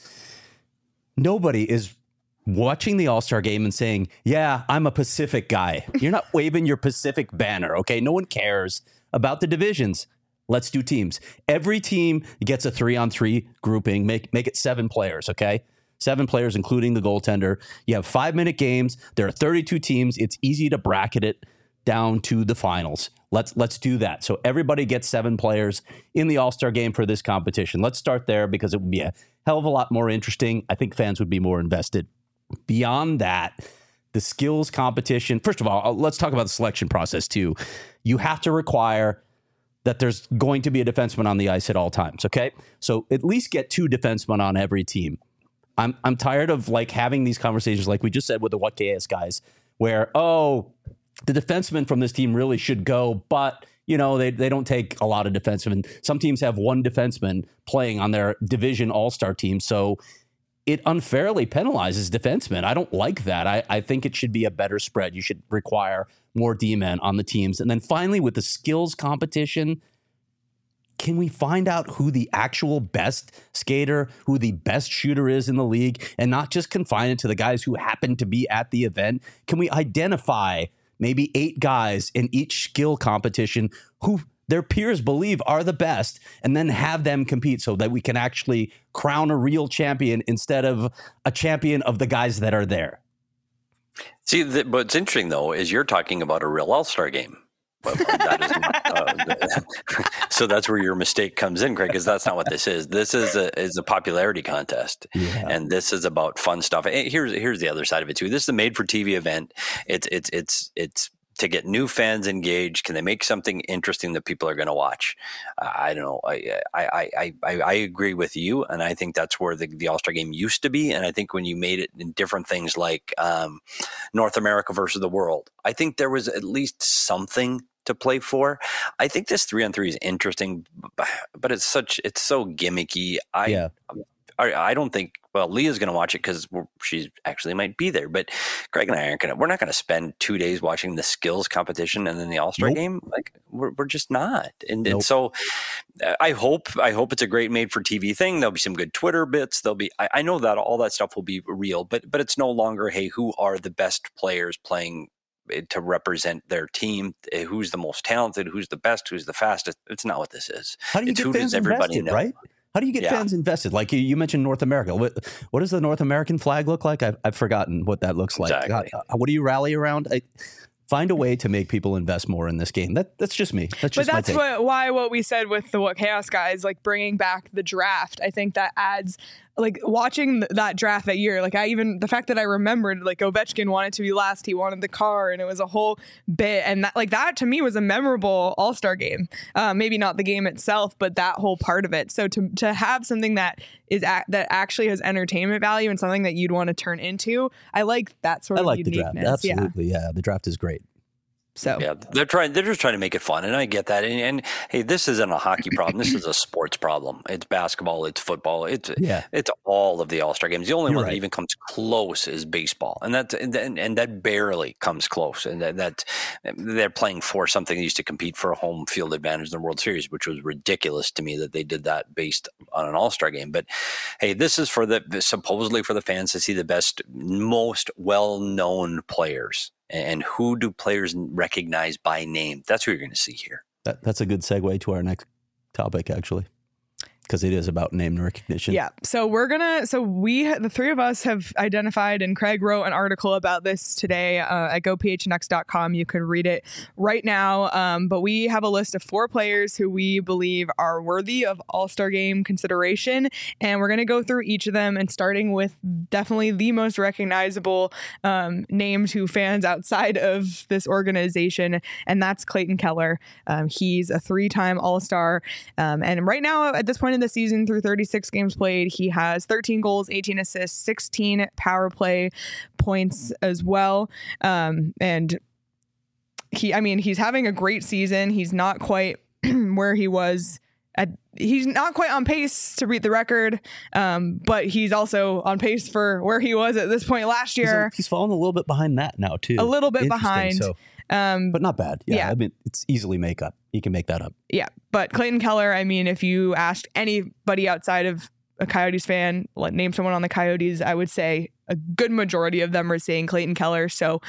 [SPEAKER 2] nobody is watching the All-Star game and saying, yeah, I'm a Pacific guy. You're not waving your Pacific banner, okay? No one cares about the divisions. Let's do teams. Every team gets a 3-on-3 grouping. Make it 7 players, okay? 7 players, including the goaltender. You have 5-minute games. There are 32 teams. It's easy to bracket it down to the finals. Let's do that. So everybody gets 7 players in the All-Star game for this competition. Let's start there, because it would be a hell of a lot more interesting. I think fans would be more invested. Beyond that, the skills competition. First of all, let's talk about the selection process too. You have to require that there's going to be a defenseman on the ice at all times. Okay, so at least get 2 defensemen on every team. I'm tired of like having these conversations like we just said with the What KS guys, where the defenseman from this team really should go, but they don't take a lot of defensemen. Some teams have 1 defenseman playing on their division all-star team, so it unfairly penalizes defensemen. I don't like that. I think it should be a better spread. You should require more D-men on the teams. And then finally, with the skills competition, can we find out who the actual best skater, who the best shooter is in the league, and not just confine it to the guys who happen to be at the event? Can we identify maybe 8 guys in each skill competition who their peers believe are the best, and then have them compete so that we can actually crown a real champion instead of a champion of the guys that are there?
[SPEAKER 7] See, what's interesting, though, is you're talking about a real All-Star game. But that is not, so that's where your mistake comes in, Craig, because that's not what this is. This is a popularity contest, and this is about fun stuff. Here's the other side of it too. This is a made-for-TV event. It's to get new fans engaged. Can they make something interesting that people are going to watch? I don't know. I agree with you, and I think that's where the All-Star game used to be. And I think when you made it in different things like North America versus the world, I think there was at least something to play for. I think this 3-on-3 is interesting, but it's so gimmicky. I don't think, Leah's going to watch it because she actually might be there, but Craig and I we're not going to spend 2 days watching the skills competition and then the All-Star game. Like we're just not. And so I hope it's a great made for TV thing. There'll be some good Twitter bits. I know that all that stuff will be real, but it's no longer, hey, who are the best players playing to represent their team, who's the most talented, who's the best, who's the fastest. It's not what this is.
[SPEAKER 2] How do you get fans invested, right? How do you get fans invested? Like you mentioned North America. What does the North American flag look like? I've forgotten what that looks like.
[SPEAKER 7] Exactly.
[SPEAKER 2] What do you rally around? Find a way to make people invest more in this game. That's just me. That's
[SPEAKER 1] why what we said with the What Chaos guys, like bringing back the draft. I think that adds, like watching that draft that year. Like the fact that I remembered, like Ovechkin wanted to be last, he wanted the car, and it was a whole bit. And that to me was a memorable All-Star game. Maybe not the game itself, but that whole part of it. So to have something that that actually has entertainment value and something that you'd want to turn into, I like that sort of uniqueness.
[SPEAKER 2] The draft. Absolutely, yeah. The draft is great.
[SPEAKER 1] So
[SPEAKER 7] yeah, they're just trying to make it fun, and I get that. And hey, this isn't a hockey problem. This is a sports problem. It's basketball, it's football, it's all of the All-Star games. The only one that even comes close is baseball, and that barely comes close. And that they're playing for something that used to compete for a home field advantage in the World Series, which was ridiculous to me that they did that based on an All-Star game. But hey, this is supposedly for the fans to see the best, most well-known players. And who do players recognize by name? That's who you're going to see here.
[SPEAKER 2] That's a good segue to our next topic, actually, because it is about name recognition.
[SPEAKER 1] Yeah. So the 3 of us have identified, and Craig wrote an article about this today at gophnx.com. You can read it right now. But we have a list of 4 players who we believe are worthy of All-Star game consideration. And we're going to go through each of them, and starting with definitely the most recognizable name to fans outside of this organization. And that's Clayton Keller. He's a 3-time All-Star. And right now, at this point in in the season through 36 games played. He has 13 goals, 18 assists, 16 power play points as well. And he's having a great season. He's not quite where he was he's not quite on pace to beat the record, but he's also on pace for where he was at this point last year.
[SPEAKER 2] He's fallen a little bit behind that now too.
[SPEAKER 1] A little bit behind.
[SPEAKER 2] So, but not bad.
[SPEAKER 1] Yeah.
[SPEAKER 2] I mean, it's easily make up. You can make that up.
[SPEAKER 1] Yeah. But Clayton Keller, I mean, if you asked anybody outside of a Coyotes fan, name someone on the Coyotes, I would say a good majority of them are saying Clayton Keller. So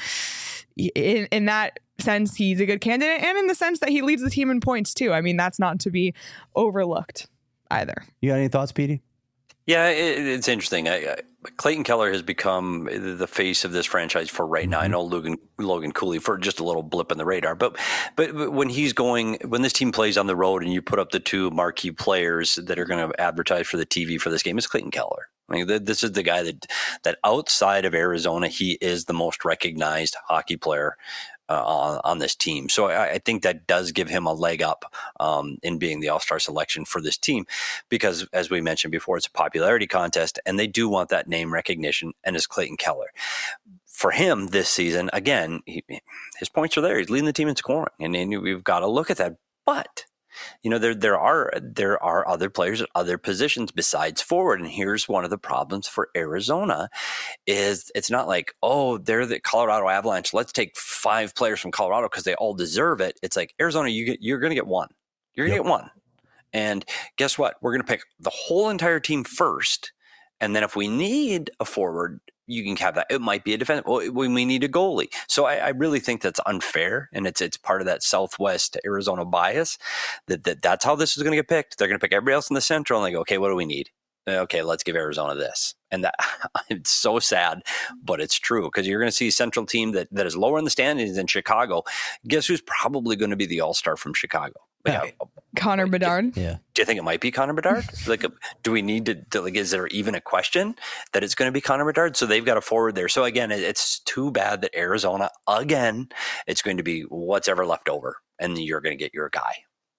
[SPEAKER 1] in that sense, he's a good candidate, and in the sense that he leads the team in points too. I mean, that's not to be overlooked either.
[SPEAKER 2] You got any thoughts, Petey?
[SPEAKER 7] Yeah, it's interesting. Clayton Keller has become the face of this franchise for right now. I know Logan Cooley for just a little blip in the radar, but when this team plays on the road and you put up the two marquee players that are going to advertise for the TV for this game, it's Clayton Keller. I mean, this is the guy that outside of Arizona, he is the most recognized hockey player on this team. So I think that does give him a leg up in being the All-Star selection for this team, because as we mentioned before, it's a popularity contest and they do want that name recognition, and it's Clayton Keller. For him this season, again, his points are there. He's leading the team in scoring, and we've got to look at that. But there are other players at other positions besides forward, and here's one of the problems for Arizona is it's not like, oh, they're the Colorado Avalanche, let's take 5 players from Colorado because they all deserve it. It's like, Arizona, you're going to get one. You're going to get one. And guess what? We're going to pick the whole entire team first, and then if we need a forward, you can have that. It might be a defense. When we need a goalie. So I really think that's unfair, and it's part of that Southwest Arizona bias that's how this is going to get picked. They're going to pick everybody else in the Central, and they go, okay, what do we need? Okay, let's give Arizona this. And that it's so sad, but it's true, because you're going to see a Central team that is lower in the standings than Chicago. Guess who's probably going to be the All-Star from Chicago?
[SPEAKER 1] Connor Bedard.
[SPEAKER 2] Yeah.
[SPEAKER 7] Do you think it might be Connor Bedard? Do we need to is there even a question that it's going to be Connor Bedard? So they've got a forward there. So again, it's too bad that Arizona, again, it's going to be what's ever left over, and you're going to get your guy.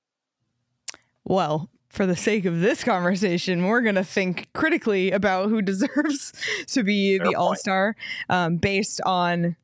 [SPEAKER 1] Well, for the sake of this conversation, we're going to think critically about who deserves to be the All-Star, based on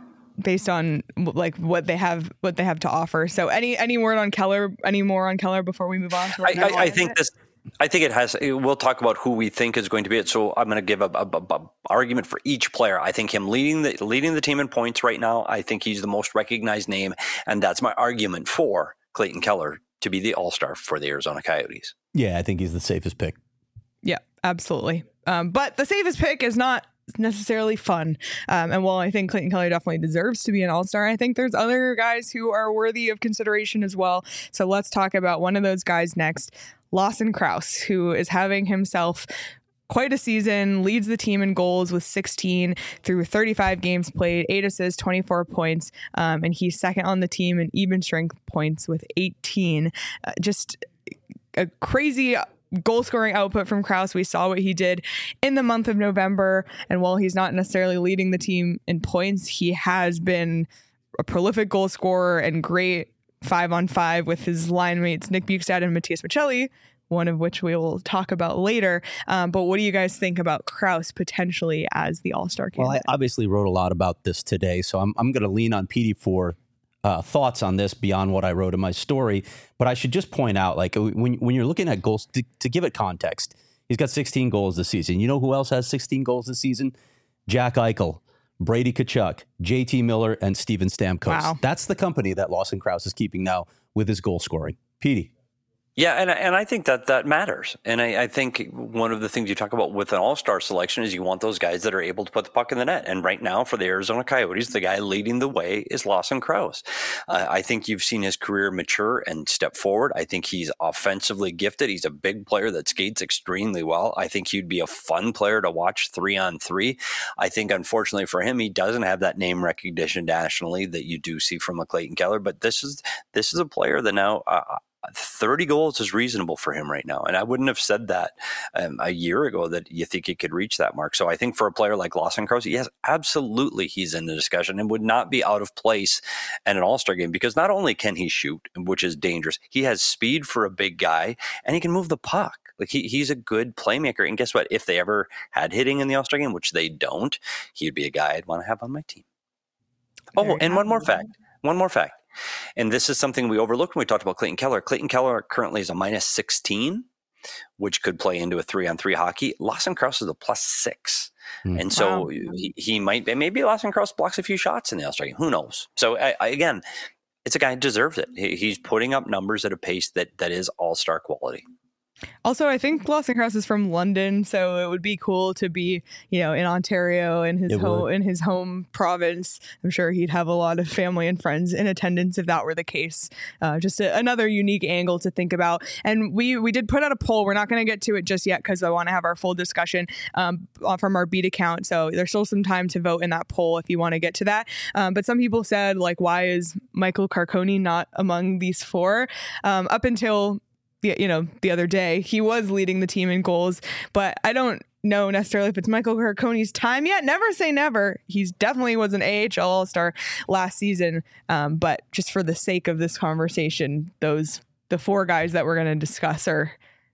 [SPEAKER 1] what they have to offer. So any word on Keller, any more on Keller before we move on to
[SPEAKER 7] I think it has. We'll talk about who we think is going to be it. So I'm going to give a argument for each player. I think him leading the team in points right now, I think he's the most recognized name, and that's my argument for Clayton Keller to be the All-Star for the Arizona Coyotes.
[SPEAKER 2] Yeah, I think he's the safest pick.
[SPEAKER 1] Yeah, absolutely. But the safest pick is not necessarily fun. And while I think Clayton Keller definitely deserves to be an All-Star, I think there's other guys who are worthy of consideration as well. So let's talk about one of those guys next, Lawson Crouse, who is having himself quite a season, leads the team in goals with 16 through 35 games played, 8 assists, 24 points, and he's second on the team in even strength points with 18. Just a crazy goal scoring output from Crouse. We saw what he did in the month of November, and while he's not necessarily leading the team in points, he has been a prolific goal scorer and great 5-on-5 with his line mates Nick Bjugstad and Matias Maccelli, one of which we will talk about later. But what do you guys think about Crouse potentially as the All-Star candidate?
[SPEAKER 2] Well, I obviously wrote a lot about this today, so I'm going to lean on Petey for thoughts on this beyond what I wrote in my story. But I should just point out, when you're looking at goals, to give it context, he's got 16 goals this season. You know who else has 16 goals this season? Jack Eichel, Brady Tkachuk, JT Miller, and Steven Stamkos.
[SPEAKER 1] Wow.
[SPEAKER 2] That's the company that Lawson Crouse is keeping now with his goal scoring. Petey.
[SPEAKER 7] Yeah, and I think that matters. And I think one of the things you talk about with an all-star selection is you want those guys that are able to put the puck in the net. And right now for the Arizona Coyotes, the guy leading the way is Lawson Crouse. I think you've seen his career mature and step forward. I think he's offensively gifted. He's a big player that skates extremely well. I think he'd be a fun player to watch 3-on-3. I think, unfortunately for him, he doesn't have that name recognition nationally that you do see from a Clayton Keller. But this is a player that now 30 goals is reasonable for him right now. And I wouldn't have said that a year ago that you think he could reach that mark. So I think for a player like Lawson Crouse, yes, absolutely he's in the discussion and would not be out of place at an All-Star game, because not only can he shoot, which is dangerous, he has speed for a big guy and he can move the puck. Like he's a good playmaker. And guess what? If they ever had hitting in the All-Star game, which they don't, he'd be a guy I'd want to have on my team. Oh, and one more fact. And this is something we overlooked when we talked about Clayton Keller. Clayton Keller currently is a -16, which could play into a 3-on-3 hockey. Lawson Crouse is a +6. And so he might, maybe Lawson Crouse blocks a few shots in the All-Star game. Who knows? So again, it's a guy who deserves it. He's putting up numbers at a pace that is All-Star quality.
[SPEAKER 1] Also, I think Lawson Crouse is from London, so it would be cool to be, in Ontario in his home province. I'm sure he'd have a lot of family and friends in attendance if that were the case. Just another unique angle to think about. And we did put out a poll. We're not going to get to it just yet because I want to have our full discussion from our beat account. So there's still some time to vote in that poll if you want to get to that. But some people said, like, why is Michael Carcone not among these four? Up until the other day, he was leading the team in goals, but I don't know necessarily if it's Michael Carcone's time yet. Never say never. He's definitely was an AHL All-Star last season. But just for the sake of this conversation, the four guys that we're going to discuss are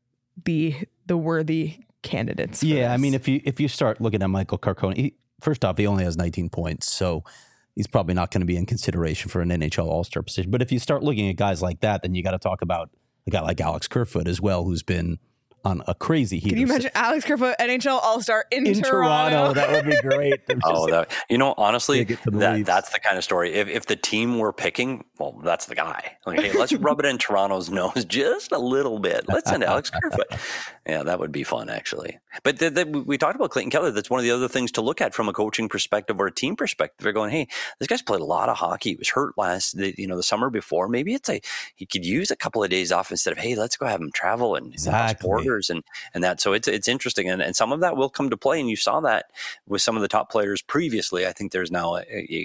[SPEAKER 1] the worthy candidates.
[SPEAKER 2] Yeah, I mean, if you start looking at Michael Carcone, first off, he only has 19 points, so he's probably not going to be in consideration for an NHL All-Star position. But if you start looking at guys like that, then you got to talk about a guy like Alex Kerfoot as well, who's been on a crazy heater.
[SPEAKER 1] Can you imagine Alex Kerfoot, NHL All-Star in
[SPEAKER 2] Toronto? That would be great.
[SPEAKER 7] Honestly, that's the kind of story. If the team were picking, well, that's the guy. Like, hey, let's rub it in Toronto's nose just a little bit. Let's send Alex Kerfoot. Yeah, that would be fun, actually. But we talked about Clayton Keller. That's one of the other things to look at from a coaching perspective or a team perspective. They're going, hey, this guy's played a lot of hockey. He was hurt the summer before. Maybe he could use a couple of days off instead of, hey, let's go have him travel and cross borders and that. So it's interesting. And some of that will come to play. And you saw that with some of the top players previously. I think there's now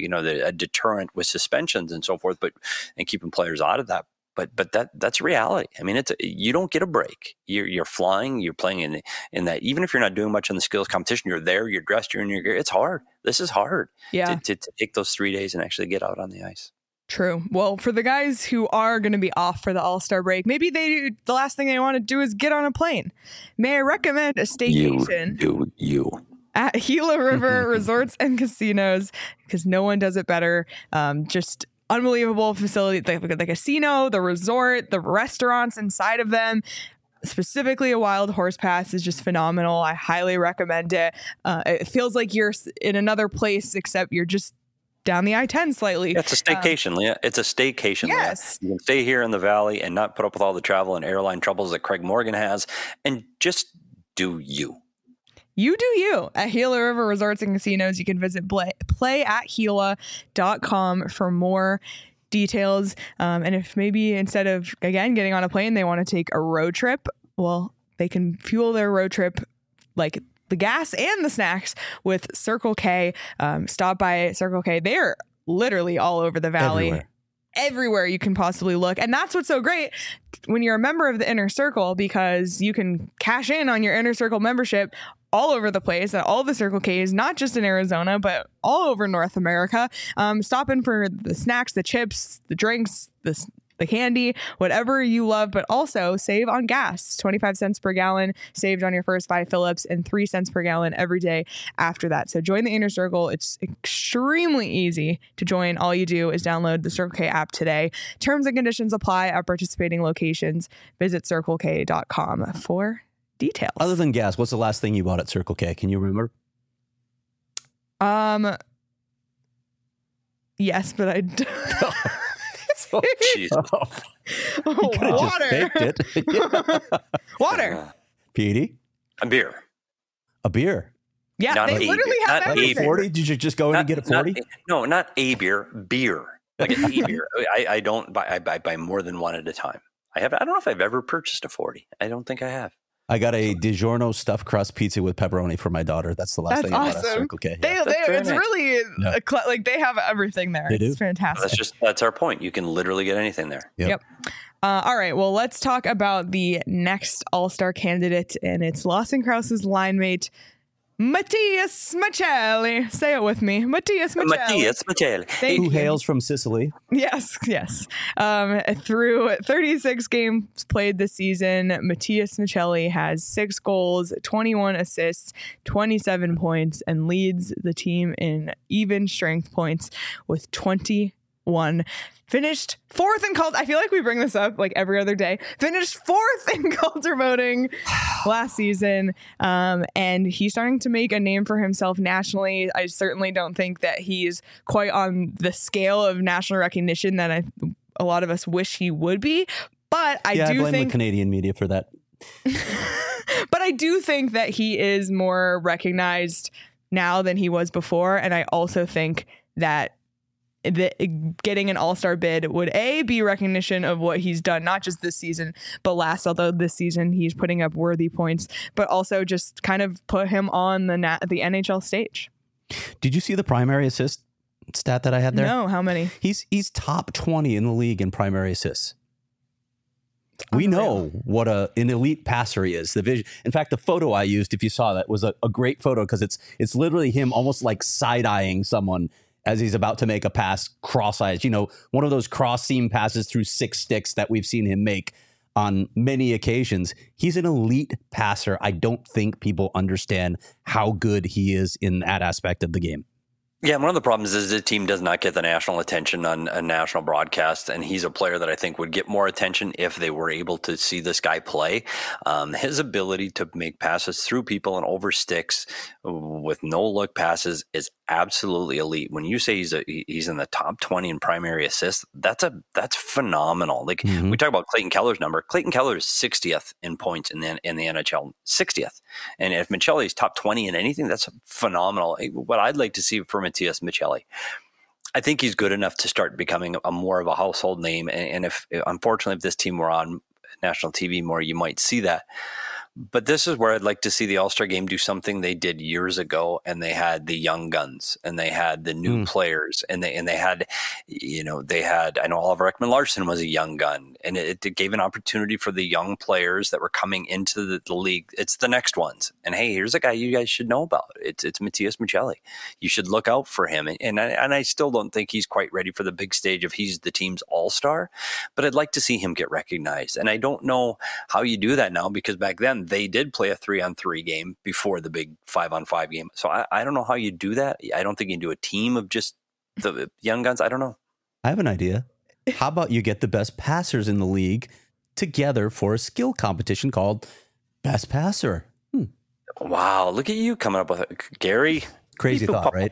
[SPEAKER 7] a deterrent with suspensions and so forth, and keeping players out of that. But that's reality. I mean, you don't get a break. You're flying. You're playing in that. Even if you're not doing much in the skills competition, you're there. You're dressed. You're in your gear. It's hard. This is hard. Yeah. To take those 3 days and actually get out on the ice.
[SPEAKER 1] True. Well, for the guys who are going to be off for the All-Star break, maybe the last thing they want to do is get on a plane. May I recommend a staycation?
[SPEAKER 7] You.
[SPEAKER 1] At Gila River Resorts and Casinos, because no one does it better. Just unbelievable facility, the casino, the resort, the restaurants inside of them. Specifically, a Wild Horse Pass is just phenomenal. I highly recommend it. It feels like you're in another place, except you're just down the I-10 slightly.
[SPEAKER 7] Yeah, it's a staycation, Leah. It's a staycation.
[SPEAKER 1] Yes.
[SPEAKER 7] Leah. You can stay here in the Valley and not put up with all the travel and airline troubles that Craig Morgan has, and just do you.
[SPEAKER 1] You do you. At Gila River Resorts and Casinos, you can visit playatgila.com for more details. And if maybe instead of, again, getting on a plane, they want to take a road trip, well, they can fuel their road trip like the gas and the snacks with Circle K. Stop by Circle K. They're literally all over the Valley. Everywhere you can possibly look. And that's what's so great when you're a member of the Inner Circle, because you can cash in on your Inner Circle membership all over the place at all the Circle K's, not just in Arizona, but all over North America. Stop in for the snacks, the chips, the drinks, the candy, whatever you love, but also save on gas. 25 cents per gallon saved on your first 5 fill-ups and 3 cents per gallon every day after that. So join the Inner Circle. It's extremely easy to join. All you do is download the Circle K app today. Terms and conditions apply at participating locations. Visit CircleK.com for details.
[SPEAKER 2] Other than gas, what's the last thing you bought at Circle K? Can you remember?
[SPEAKER 1] Yes, but I
[SPEAKER 7] Oh,
[SPEAKER 1] water. Water.
[SPEAKER 2] Petey?
[SPEAKER 7] A beer.
[SPEAKER 2] A beer.
[SPEAKER 1] Yeah,
[SPEAKER 7] Not
[SPEAKER 1] they literally have everything.
[SPEAKER 2] 40? Did you just go in and get a 40?
[SPEAKER 7] No, not a beer. Beer. Like an e beer. I don't buy. I buy more than one at a time. I don't know if I've ever purchased a 40. I don't think I have.
[SPEAKER 2] I got a DiGiorno stuffed crust pizza with pepperoni for my daughter. That's the last thing I bought at Circle K.
[SPEAKER 1] It's really like they have everything there. It's fantastic.
[SPEAKER 7] That's our point. You can literally get anything there.
[SPEAKER 1] Yep. All right. Well, let's talk about the next All-Star candidate, and it's Lawson Crouse's line mate, Matias Machelli. Say it with me. Matias Machelli.
[SPEAKER 7] Matias Machelli.
[SPEAKER 1] Thank
[SPEAKER 2] Who
[SPEAKER 1] you.
[SPEAKER 2] hails from Sicily?
[SPEAKER 1] Yes. Through 36 games played this season, Matias Machelli has 6 goals, 21 assists, 27 points, and leads the team in even strength points with 21. Finished 4th in Calder. I feel like we bring this up like every other day. Finished 4th in Calder voting last season. And he's starting to make a name for himself nationally. I certainly don't think that he's quite on the scale of national recognition that a lot of us wish he would be. But I do
[SPEAKER 2] blame
[SPEAKER 1] think
[SPEAKER 2] the Canadian media for that.
[SPEAKER 1] but I do think that he is more recognized now than he was before. And I also think that getting an all-star bid would be recognition of what he's done, not just this season, but last, although this season he's putting up worthy points, but also just kind of put him on the NHL stage.
[SPEAKER 2] Did you see the primary assist stat that I had there?
[SPEAKER 1] No, how many?
[SPEAKER 2] He's top 20 in the league in primary assists. We know what an elite passer he is. The vision. In fact, the photo I used, if you saw that, was a great photo because it's literally him almost like side-eyeing someone as he's about to make a pass cross-eyed. You know, one of those cross-seam passes through 6 sticks that we've seen him make on many occasions. He's an elite passer. I don't think people understand how good he is in that aspect of the game.
[SPEAKER 7] Yeah, one of the problems is the team does not get the national attention on a national broadcast, and he's a player that I think would get more attention if they were able to see this guy play. His ability to make passes through people and over sticks with no-look passes is absolutely elite. When you say he's in the top 20 in primary assists, that's phenomenal. Like we talk about Clayton Keller's number. Clayton Keller is 60th in points in the NHL, 60th. And if Machelli is top 20 in anything, that's phenomenal. What I'd like to see from Matias Machelli, I think he's good enough to start becoming a more of a household name. And if unfortunately, if this team were on national TV more, you might see that. But this is where I'd like to see the All-Star game do something they did years ago, and they had the young guns, and they had the new players, and they had, I know Oliver Ekman-Larsson was a young gun, and it gave an opportunity for the young players that were coming into the league. It's the next ones, and hey, here's a guy you guys should know about. It's Matias Machelli. You should look out for him, and I still don't think he's quite ready for the big stage of he's the team's All-Star, but I'd like to see him get recognized, and I don't know how you do that now because back then they did play a 3-on-3 game before the big 5-on-5 game. So I don't know how you do that. I don't think you can do a team of just the young guns. I don't know.
[SPEAKER 2] I have an idea. How about you get the best passers in the league together for a skill competition called Best Passer?
[SPEAKER 7] Wow. Look at you coming up with it. Gary.
[SPEAKER 2] Crazy thought, right?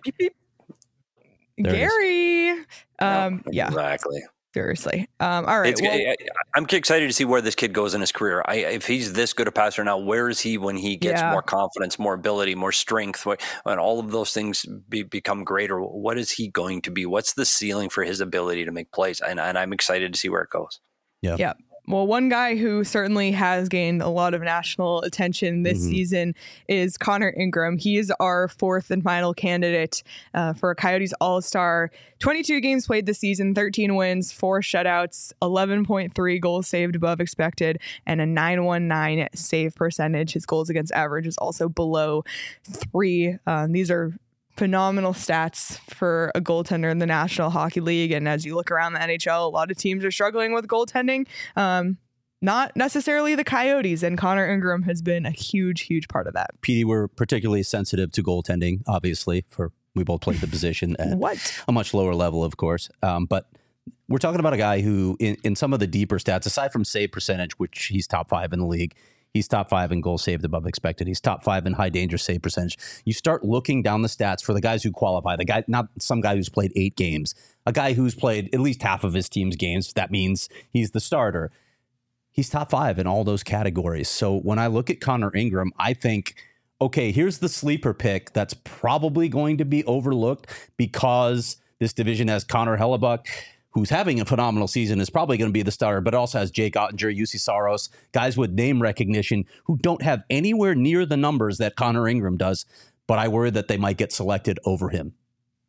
[SPEAKER 1] Gary. Yeah.
[SPEAKER 7] Exactly.
[SPEAKER 1] Seriously. All right.
[SPEAKER 7] I'm excited to see where this kid goes in his career. If he's this good a passer now, where is he when he gets more confidence, more ability, more strength, when all of those things become greater? What is he going to be? What's the ceiling for his ability to make plays? And I'm excited to see where it goes.
[SPEAKER 1] Yeah. Well, one guy who certainly has gained a lot of national attention this season is Connor Ingram. He is our 4th and final candidate for a Coyotes All-Star. 22 games played this season, 13 wins, 4 shutouts, 11.3 goals saved above expected, and a .919 save percentage. His goals against average is also below 3. These are phenomenal stats for a goaltender in the National Hockey League. And as you look around the NHL, a lot of teams are struggling with goaltending. Not necessarily the Coyotes, and Connor Ingram has been a huge part of that.
[SPEAKER 2] PD, we're particularly sensitive to goaltending, obviously, for we both played the position at a much lower level, of course. But we're talking about a guy who, in some of the deeper stats, aside from save percentage, which he's top 5 in the league, he's top 5 in goals saved above expected. He's top 5 in high danger save percentage. You start looking down the stats for the guys who qualify. The guy, not some guy who's played 8 games, a guy who's played at least half of his team's games. That means he's the starter. He's top 5 in all those categories. So when I look at Connor Ingram, I think, okay, here's the sleeper pick that's probably going to be overlooked because this division has Connor Hellebuyck, who's having a phenomenal season, is probably going to be the starter, but also has Jake Ottinger, UC Saros, guys with name recognition who don't have anywhere near the numbers that Connor Ingram does, but I worry that they might get selected over him.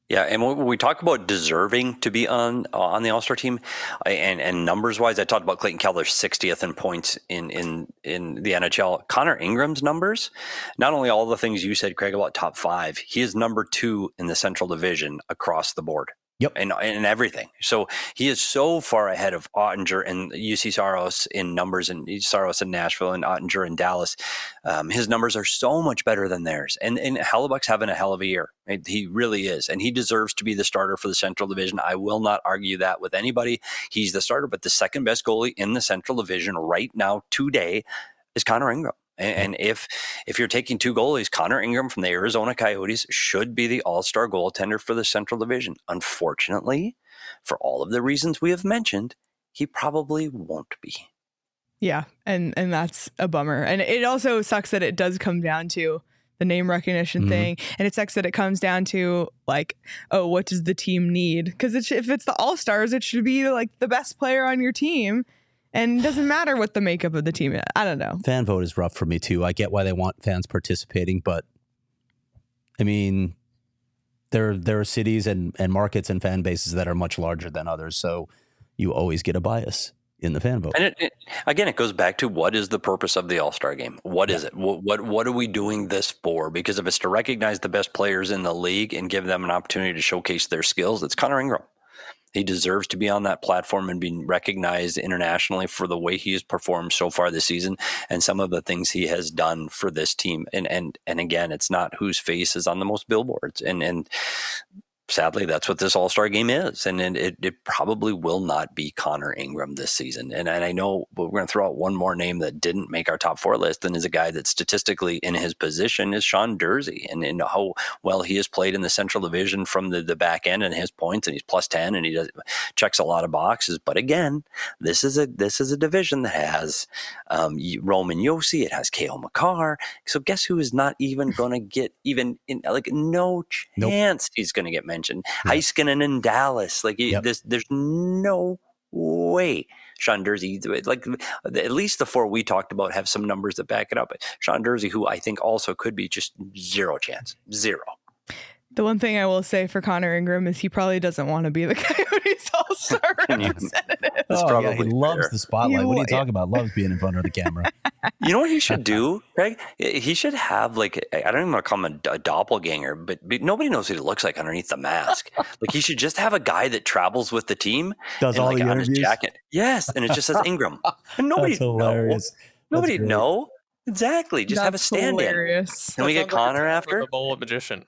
[SPEAKER 7] Yeah, and when we talk about deserving to be on the All-Star team, and numbers-wise, I talked about Clayton Keller 60th in points in the NHL. Connor Ingram's numbers, not only all the things you said, Craig, about top 5, he is number 2 in the Central Division across the board.
[SPEAKER 2] Yep.
[SPEAKER 7] And everything. So he is so far ahead of Ottinger and UC Saros in numbers, and Saros in Nashville and Ottinger in Dallas. His numbers are so much better than theirs. And Hellebuyck's having a hell of a year. He really is. And he deserves to be the starter for the Central Division. I will not argue that with anybody. He's the starter, but the second best goalie in the Central Division right now today is Connor Ingram. And if you're taking 2 goalies, Connor Ingram from the Arizona Coyotes should be the all-star goaltender for the Central Division. Unfortunately, for all of the reasons we have mentioned, he probably won't be.
[SPEAKER 1] Yeah, and that's a bummer. And it also sucks that it does come down to the name recognition thing. And it sucks that it comes down to like, oh, what does the team need? Because if it's the All-Stars, it should be like the best player on your team. And it doesn't matter what the makeup of the team is. I don't know.
[SPEAKER 2] Fan vote is rough for me, too. I get why they want fans participating, but I mean, there are cities and markets and fan bases that are much larger than others. So you always get a bias in the fan vote.
[SPEAKER 7] And it goes back to what is the purpose of the All-Star game? What is it? What are we doing this for? Because if it's to recognize the best players in the league and give them an opportunity to showcase their skills, it's Connor Ingram. He deserves to be on that platform and be recognized internationally for the way he has performed so far this season and some of the things he has done for this team. And again, it's not whose face is on the most billboards. And sadly, that's what this All-Star game is. And it probably will not be Connor Ingram this season. And I know we're going to throw out one more name that didn't make our top 4 list, and is a guy that statistically in his position is Sean Durzi, and how well he has played in the Central Division from the back end and his points, and he's plus 10 and he checks a lot of boxes. But again, this is a division that has Roman Josi, it has Cale Makar. So guess who is not even going to get even in, like, no chance he's going to get mentioned. Heiskanen in Dallas, there's no way Sean Durzi, like at least the 4 we talked about have some numbers that back it up. Sean Durzi, who I think also could be just zero chance.
[SPEAKER 1] The one thing I will say for Connor Ingram is he probably doesn't want to be the Coyotes All-Star representative.
[SPEAKER 2] He loves the spotlight. What are you talking about? Loves being in front of the camera.
[SPEAKER 7] You know what he should do, Greg? He should have, like, I don't even want to call him a doppelganger, but nobody knows what he looks like underneath the mask. Like, he should just have a guy that travels with the team.
[SPEAKER 2] Does all the
[SPEAKER 7] on
[SPEAKER 2] interviews?
[SPEAKER 7] His jacket. Yes, and it just says Ingram. And nobody knows. Nobody know. Exactly. Just have a stand-in.
[SPEAKER 1] Hilarious.
[SPEAKER 7] Can we get Connor after?
[SPEAKER 6] The bullet magician.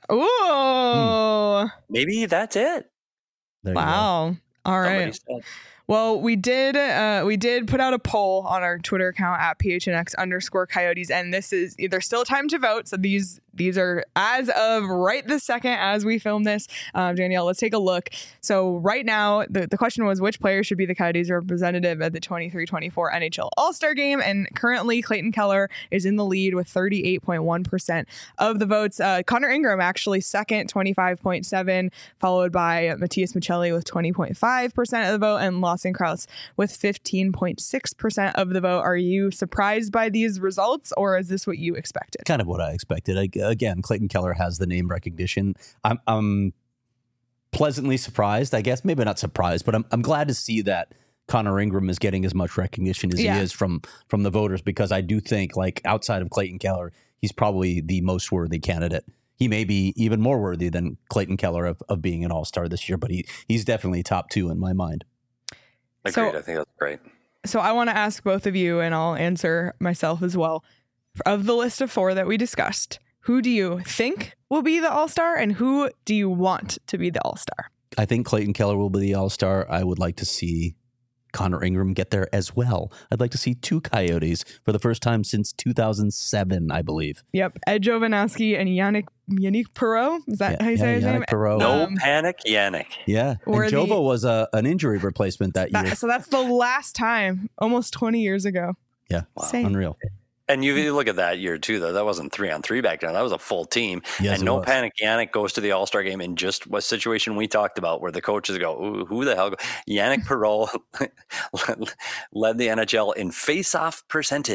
[SPEAKER 1] Ooh.
[SPEAKER 7] Maybe that's it.
[SPEAKER 1] Wow. All right. Well, we did put out a poll on our Twitter account at PHNX_Coyotes, and there's still time to vote. So these are as of right this second as we film this. Danielle, let's take a look. So right now, the question was which player should be the Coyotes representative at the 23-24 NHL All-Star Game, and currently Clayton Keller is in the lead with 38.1% of the votes. Connor Ingram actually second, 25.7%, followed by Matthias Michelli with 20.5% of the vote, and Lawson Krause with 15.6% of the vote. Are you surprised by these results, or is this what you expected?
[SPEAKER 2] Kind of what I expected. Again, Clayton Keller has the name recognition. I'm pleasantly surprised, I guess. Maybe not surprised, but I'm glad to see that Connor Ingram is getting as much recognition as he is from the voters, because I do think, like, outside of Clayton Keller, he's probably the most worthy candidate. He may be even more worthy than Clayton Keller of being an all-star this year, but he's definitely top 2 in my mind.
[SPEAKER 7] Agreed. I think that's great.
[SPEAKER 1] So I want to ask both of you, and I'll answer myself as well. Of the list of 4 that we discussed, who do you think will be the All-Star, and who do you want to be the All-Star?
[SPEAKER 2] I think Clayton Keller will be the All-Star. I would like to see Connor Ingram get there as well. I'd like to see 2 Coyotes for the first time since 2007, I believe.
[SPEAKER 1] Yep. Ed Jovanovski and Yannick Perreault. Is that how you say his name?
[SPEAKER 2] Perreault.
[SPEAKER 7] No panic, Yannick.
[SPEAKER 2] Yeah. And Jova was an injury replacement that year.
[SPEAKER 1] So that's the last time, almost 20 years ago.
[SPEAKER 2] Yeah. Wow. Unreal.
[SPEAKER 7] And you look at that year too, though. That wasn't 3-on-3 back then. That was a full team.
[SPEAKER 2] Yes,
[SPEAKER 7] and no panic. Yannick goes to the All-Star game in just a situation we talked about, where the coaches go, "Ooh, who the hell?" Yannick Perreault led the NHL in face-off percentage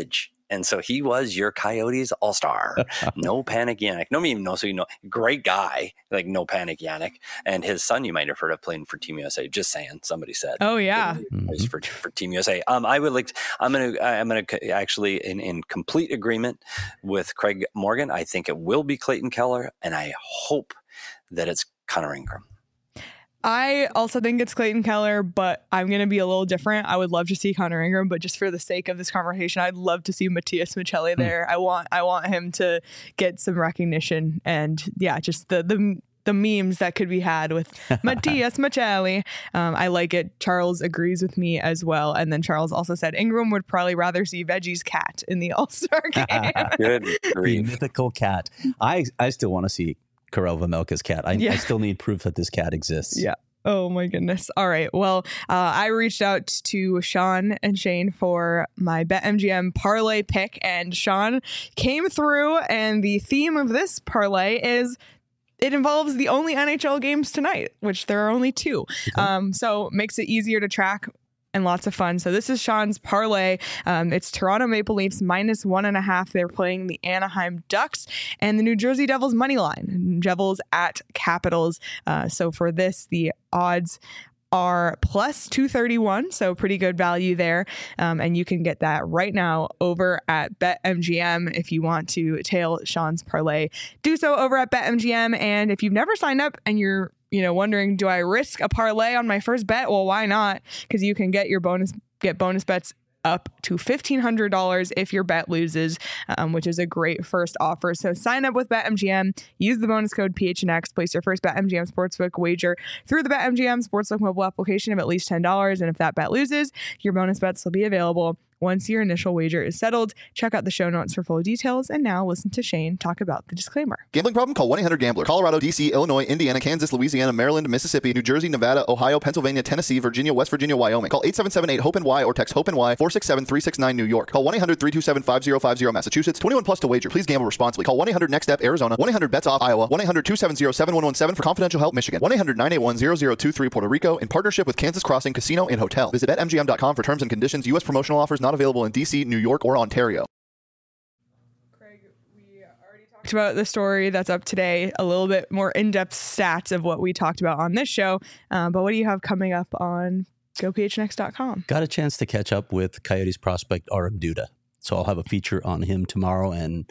[SPEAKER 7] And so he was your Coyotes all-star. No Panic Yannick. Nobody even knows who you know. Great guy, like No Panic Yannick. And his son, you might have heard of, playing for Team USA. Just saying, somebody said.
[SPEAKER 1] Oh, yeah.
[SPEAKER 7] For Team USA. I'm gonna actually in complete agreement with Craig Morgan. I think it will be Clayton Keller, and I hope that it's Connor Ingram.
[SPEAKER 1] I also think it's Clayton Keller, but I'm going to be a little different. I would love to see Connor Ingram, but just for the sake of this conversation, I'd love to see Matias Maccelli there. I want him to get some recognition, and yeah, just the memes that could be had with Matias Maccelli. I like it. Charles agrees with me as well. And then Charles also said Ingram would probably rather see Veggie's cat in the All-Star game.
[SPEAKER 7] Good
[SPEAKER 2] The
[SPEAKER 7] grief.
[SPEAKER 2] mythical cat. I still want to see Karel Vejmelka's cat. I still need proof that this cat exists.
[SPEAKER 1] Yeah. Oh my goodness. All right. Well, I reached out to Sean and Shane for my BetMGM parlay pick, and Sean came through, and the theme of this parlay is it involves the only NHL games tonight, which there are only 2. So makes it easier to track and lots of fun. So this is Sean's parlay. It's Toronto Maple Leafs -1.5. They're playing the Anaheim Ducks, and the New Jersey Devils money line. Devils at Capitals. So for this, the odds are +231, so pretty good value there. And you can get that right now over at BetMGM. If you want to tail Sean's parlay, do so over at BetMGM. And if you've never signed up and you're wondering, do I risk a parlay on my first bet? Well, why not? Because you can get bonus bets up to $1,500 if your bet loses, which is a great first offer. So sign up with BetMGM, use the bonus code PHNX, place your first BetMGM Sportsbook wager through the BetMGM Sportsbook mobile application of at least $10. And if that bet loses, your bonus bets will be available once your initial wager is settled. Check out the show notes for full details. And now listen to Shane talk about the disclaimer.
[SPEAKER 8] Gambling problem? Call 1-800-GAMBLER. Colorado, D.C., Illinois, Indiana, Kansas, Louisiana, Maryland, Mississippi, New Jersey, Nevada, Ohio, Pennsylvania, Tennessee, Virginia, West Virginia, Wyoming. Call 877-8-HOPE-NY or text HOPE-NY 467-369 New York. Call 1-800-327-5050 Massachusetts. 21 plus to wager. Please gamble responsibly. Call 1-800-NEXT-STEP Arizona. 1-800-BETS-OFF Iowa. 1-800-270-7117 for confidential help Michigan. 1-800-981-0023 Puerto Rico in partnership with Kansas Crossing Casino and Hotel. Visit BetMGM.com for terms and conditions. U.S. promotional offers not available in D.C., New York, or Ontario.
[SPEAKER 1] Craig, we already talked about the story that's up today, a little bit more in-depth stats of what we talked about on this show. But what do you have coming up on GoPHNX.com?
[SPEAKER 2] Got a chance to catch up with Coyotes prospect Aram Duda. So I'll have a feature on him tomorrow, and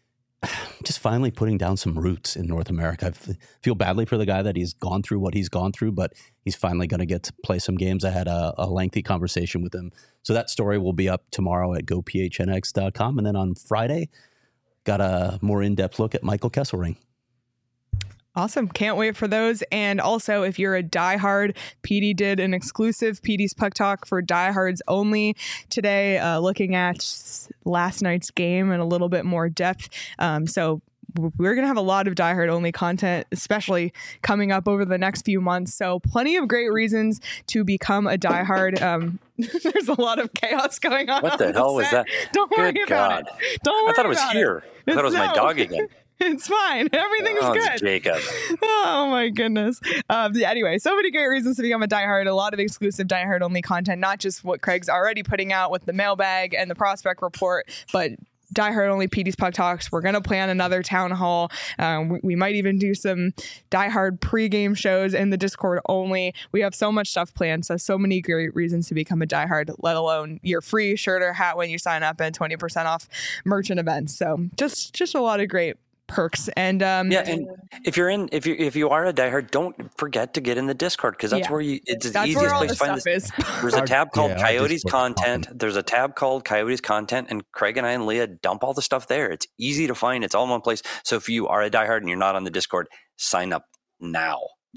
[SPEAKER 2] just finally putting down some roots in North America. I feel badly for the guy that he's gone through what he's gone through, but he's finally going to get to play some games. I had a lengthy conversation with him. So that story will be up tomorrow at GoPHNX.com. And then on Friday, got a more in-depth look at Michael Kesselring.
[SPEAKER 1] Awesome. Can't wait for those. And also, if you're a diehard, PD did an exclusive PD's Puck Talk for diehards only today, looking at last night's game in a little bit more depth. So we're going to have a lot of diehard only content, especially coming up over the next few months. So plenty of great reasons to become a diehard. There's a lot of chaos going on.
[SPEAKER 7] What the hell was that?
[SPEAKER 1] Don't worry
[SPEAKER 7] Good
[SPEAKER 1] about
[SPEAKER 7] God.
[SPEAKER 1] it. Don't worry
[SPEAKER 7] I thought it was
[SPEAKER 1] about
[SPEAKER 7] here. I thought it was my dog again.
[SPEAKER 1] It's fine. Everything's
[SPEAKER 7] Oh,
[SPEAKER 1] good.
[SPEAKER 7] it's Jacob.
[SPEAKER 1] Oh my goodness. Anyway, so many great reasons to become a diehard. A lot of exclusive diehard only content, not just what Craig's already putting out with the mailbag and the prospect report, but diehard only PD's Puck Talks. We're going to plan another town hall. We might even do some diehard pregame shows in the Discord only. We have so much stuff planned. So many great reasons to become a diehard, let alone your free shirt or hat when you sign up and 20% off merchant events. So just a lot of great perks. And
[SPEAKER 7] And if you are a diehard, don't forget to get in the Discord, because that's where it's the easiest
[SPEAKER 1] where all
[SPEAKER 7] place
[SPEAKER 1] the
[SPEAKER 7] to find
[SPEAKER 1] stuff
[SPEAKER 7] this.
[SPEAKER 1] is.
[SPEAKER 7] There's a tab called
[SPEAKER 2] our
[SPEAKER 7] Coyotes
[SPEAKER 2] Discord's
[SPEAKER 7] Content.
[SPEAKER 2] awesome.
[SPEAKER 7] There's a tab called Coyotes Content, and Craig and I and Leah dump all the stuff there. It's easy to find. It's all in one place. So if you are a diehard and you're not on the Discord, sign up now.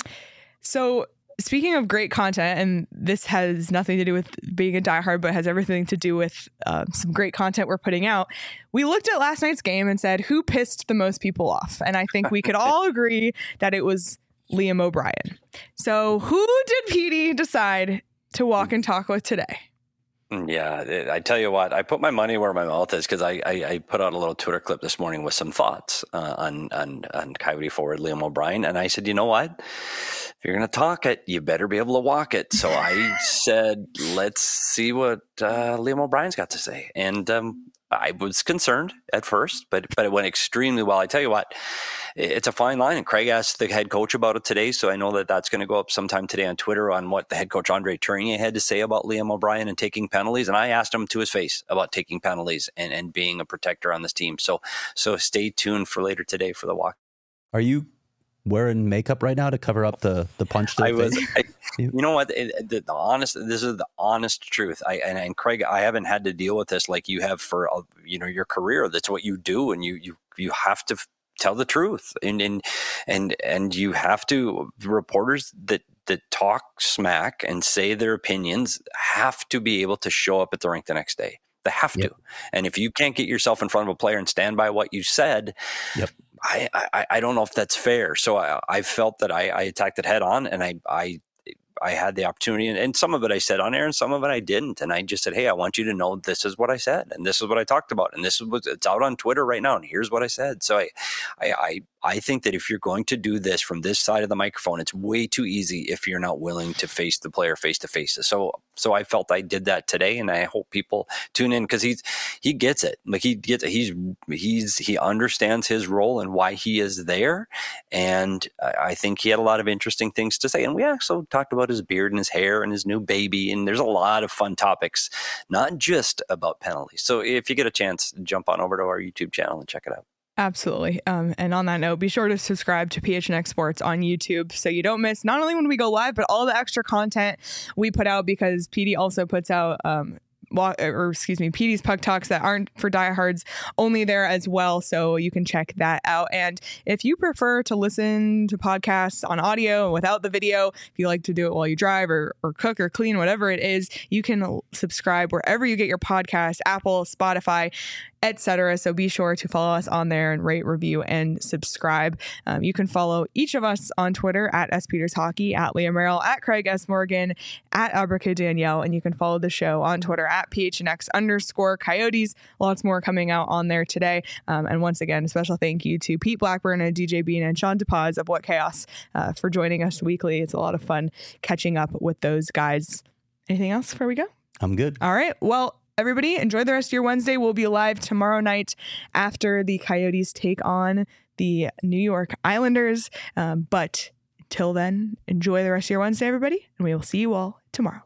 [SPEAKER 1] So speaking of great content, and this has nothing to do with being a diehard, but has everything to do with some great content we're putting out. We looked at last night's game and said, who pissed the most people off? And I think we could all agree that it was Liam O'Brien. So who did PD decide to walk and talk with today?
[SPEAKER 7] Yeah, I tell you what, I put my money where my mouth is, because I put out a little Twitter clip this morning with some thoughts on Coyote forward Liam O'Brien, and I said, you know what? If you're going to talk it, you better be able to walk it. So I said, let's see what Liam O'Brien's got to say. And I was concerned at first, but it went extremely well. I tell you what, it's a fine line. And Craig asked the head coach about it today. So I know that that's going to go up sometime today on Twitter on what the head coach Andre Tourigny had to say about Liam O'Brien and taking penalties. And I asked him to his face about taking penalties and being a protector on this team. So stay tuned for later today for the walk.
[SPEAKER 2] Are you wearing makeup right now to cover up the punch to the face?
[SPEAKER 7] You know what? This is the honest truth. And Craig, I haven't had to deal with this like you have for your career. That's what you do, and you have to tell the truth, and you have to. Reporters that talk smack and say their opinions have to be able to show up at the rink the next day. They have to. And if you can't get yourself in front of a player and stand by what you said, I don't know if that's fair. So I felt that I attacked it head on, and I had the opportunity, and some of it I said on air and some of it I didn't. And I just said, hey, I want you to know this is what I said, and this is what I talked about, and it's out on Twitter right now, and here's what I said. So I think that if you're going to do this from this side of the microphone, it's way too easy if you're not willing to face the player face to face. So I felt I did that today, and I hope people tune in because he gets it. Like he understands his role and why he is there, and I think he had a lot of interesting things to say. And we also talked about his beard and his hair and his new baby, and there's a lot of fun topics, not just about penalties. So if you get a chance, jump on over to our YouTube channel and check it out.
[SPEAKER 1] Absolutely. And on that note, be sure to subscribe to PHNX Sports on YouTube so you don't miss not only when we go live, but all the extra content we put out, because PD also puts out PD's Puck Talks that aren't for diehards only there as well. So you can check that out. And if you prefer to listen to podcasts on audio and without the video, if you like to do it while you drive or cook or clean, whatever it is, you can subscribe wherever you get your podcast, Apple, Spotify, etc. So be sure to follow us on there and rate, review, and subscribe. You can follow each of us on Twitter at SPetersHockey, at Liam Merrill, at Craig S. Morgan, at Abrica Danielle, and you can follow the show on Twitter at PHNX_Coyotes. Lots more coming out on there today. And once again, a special thank you to Pete Blackburn and DJ Bean and Sean DePaz of What Chaos for joining us weekly. It's a lot of fun catching up with those guys. Anything else before we go?
[SPEAKER 2] I'm good.
[SPEAKER 1] All right. Well, everybody, enjoy the rest of your Wednesday. We'll be live tomorrow night after the Coyotes take on the New York Islanders. But till then, enjoy the rest of your Wednesday, everybody, and we will see you all tomorrow.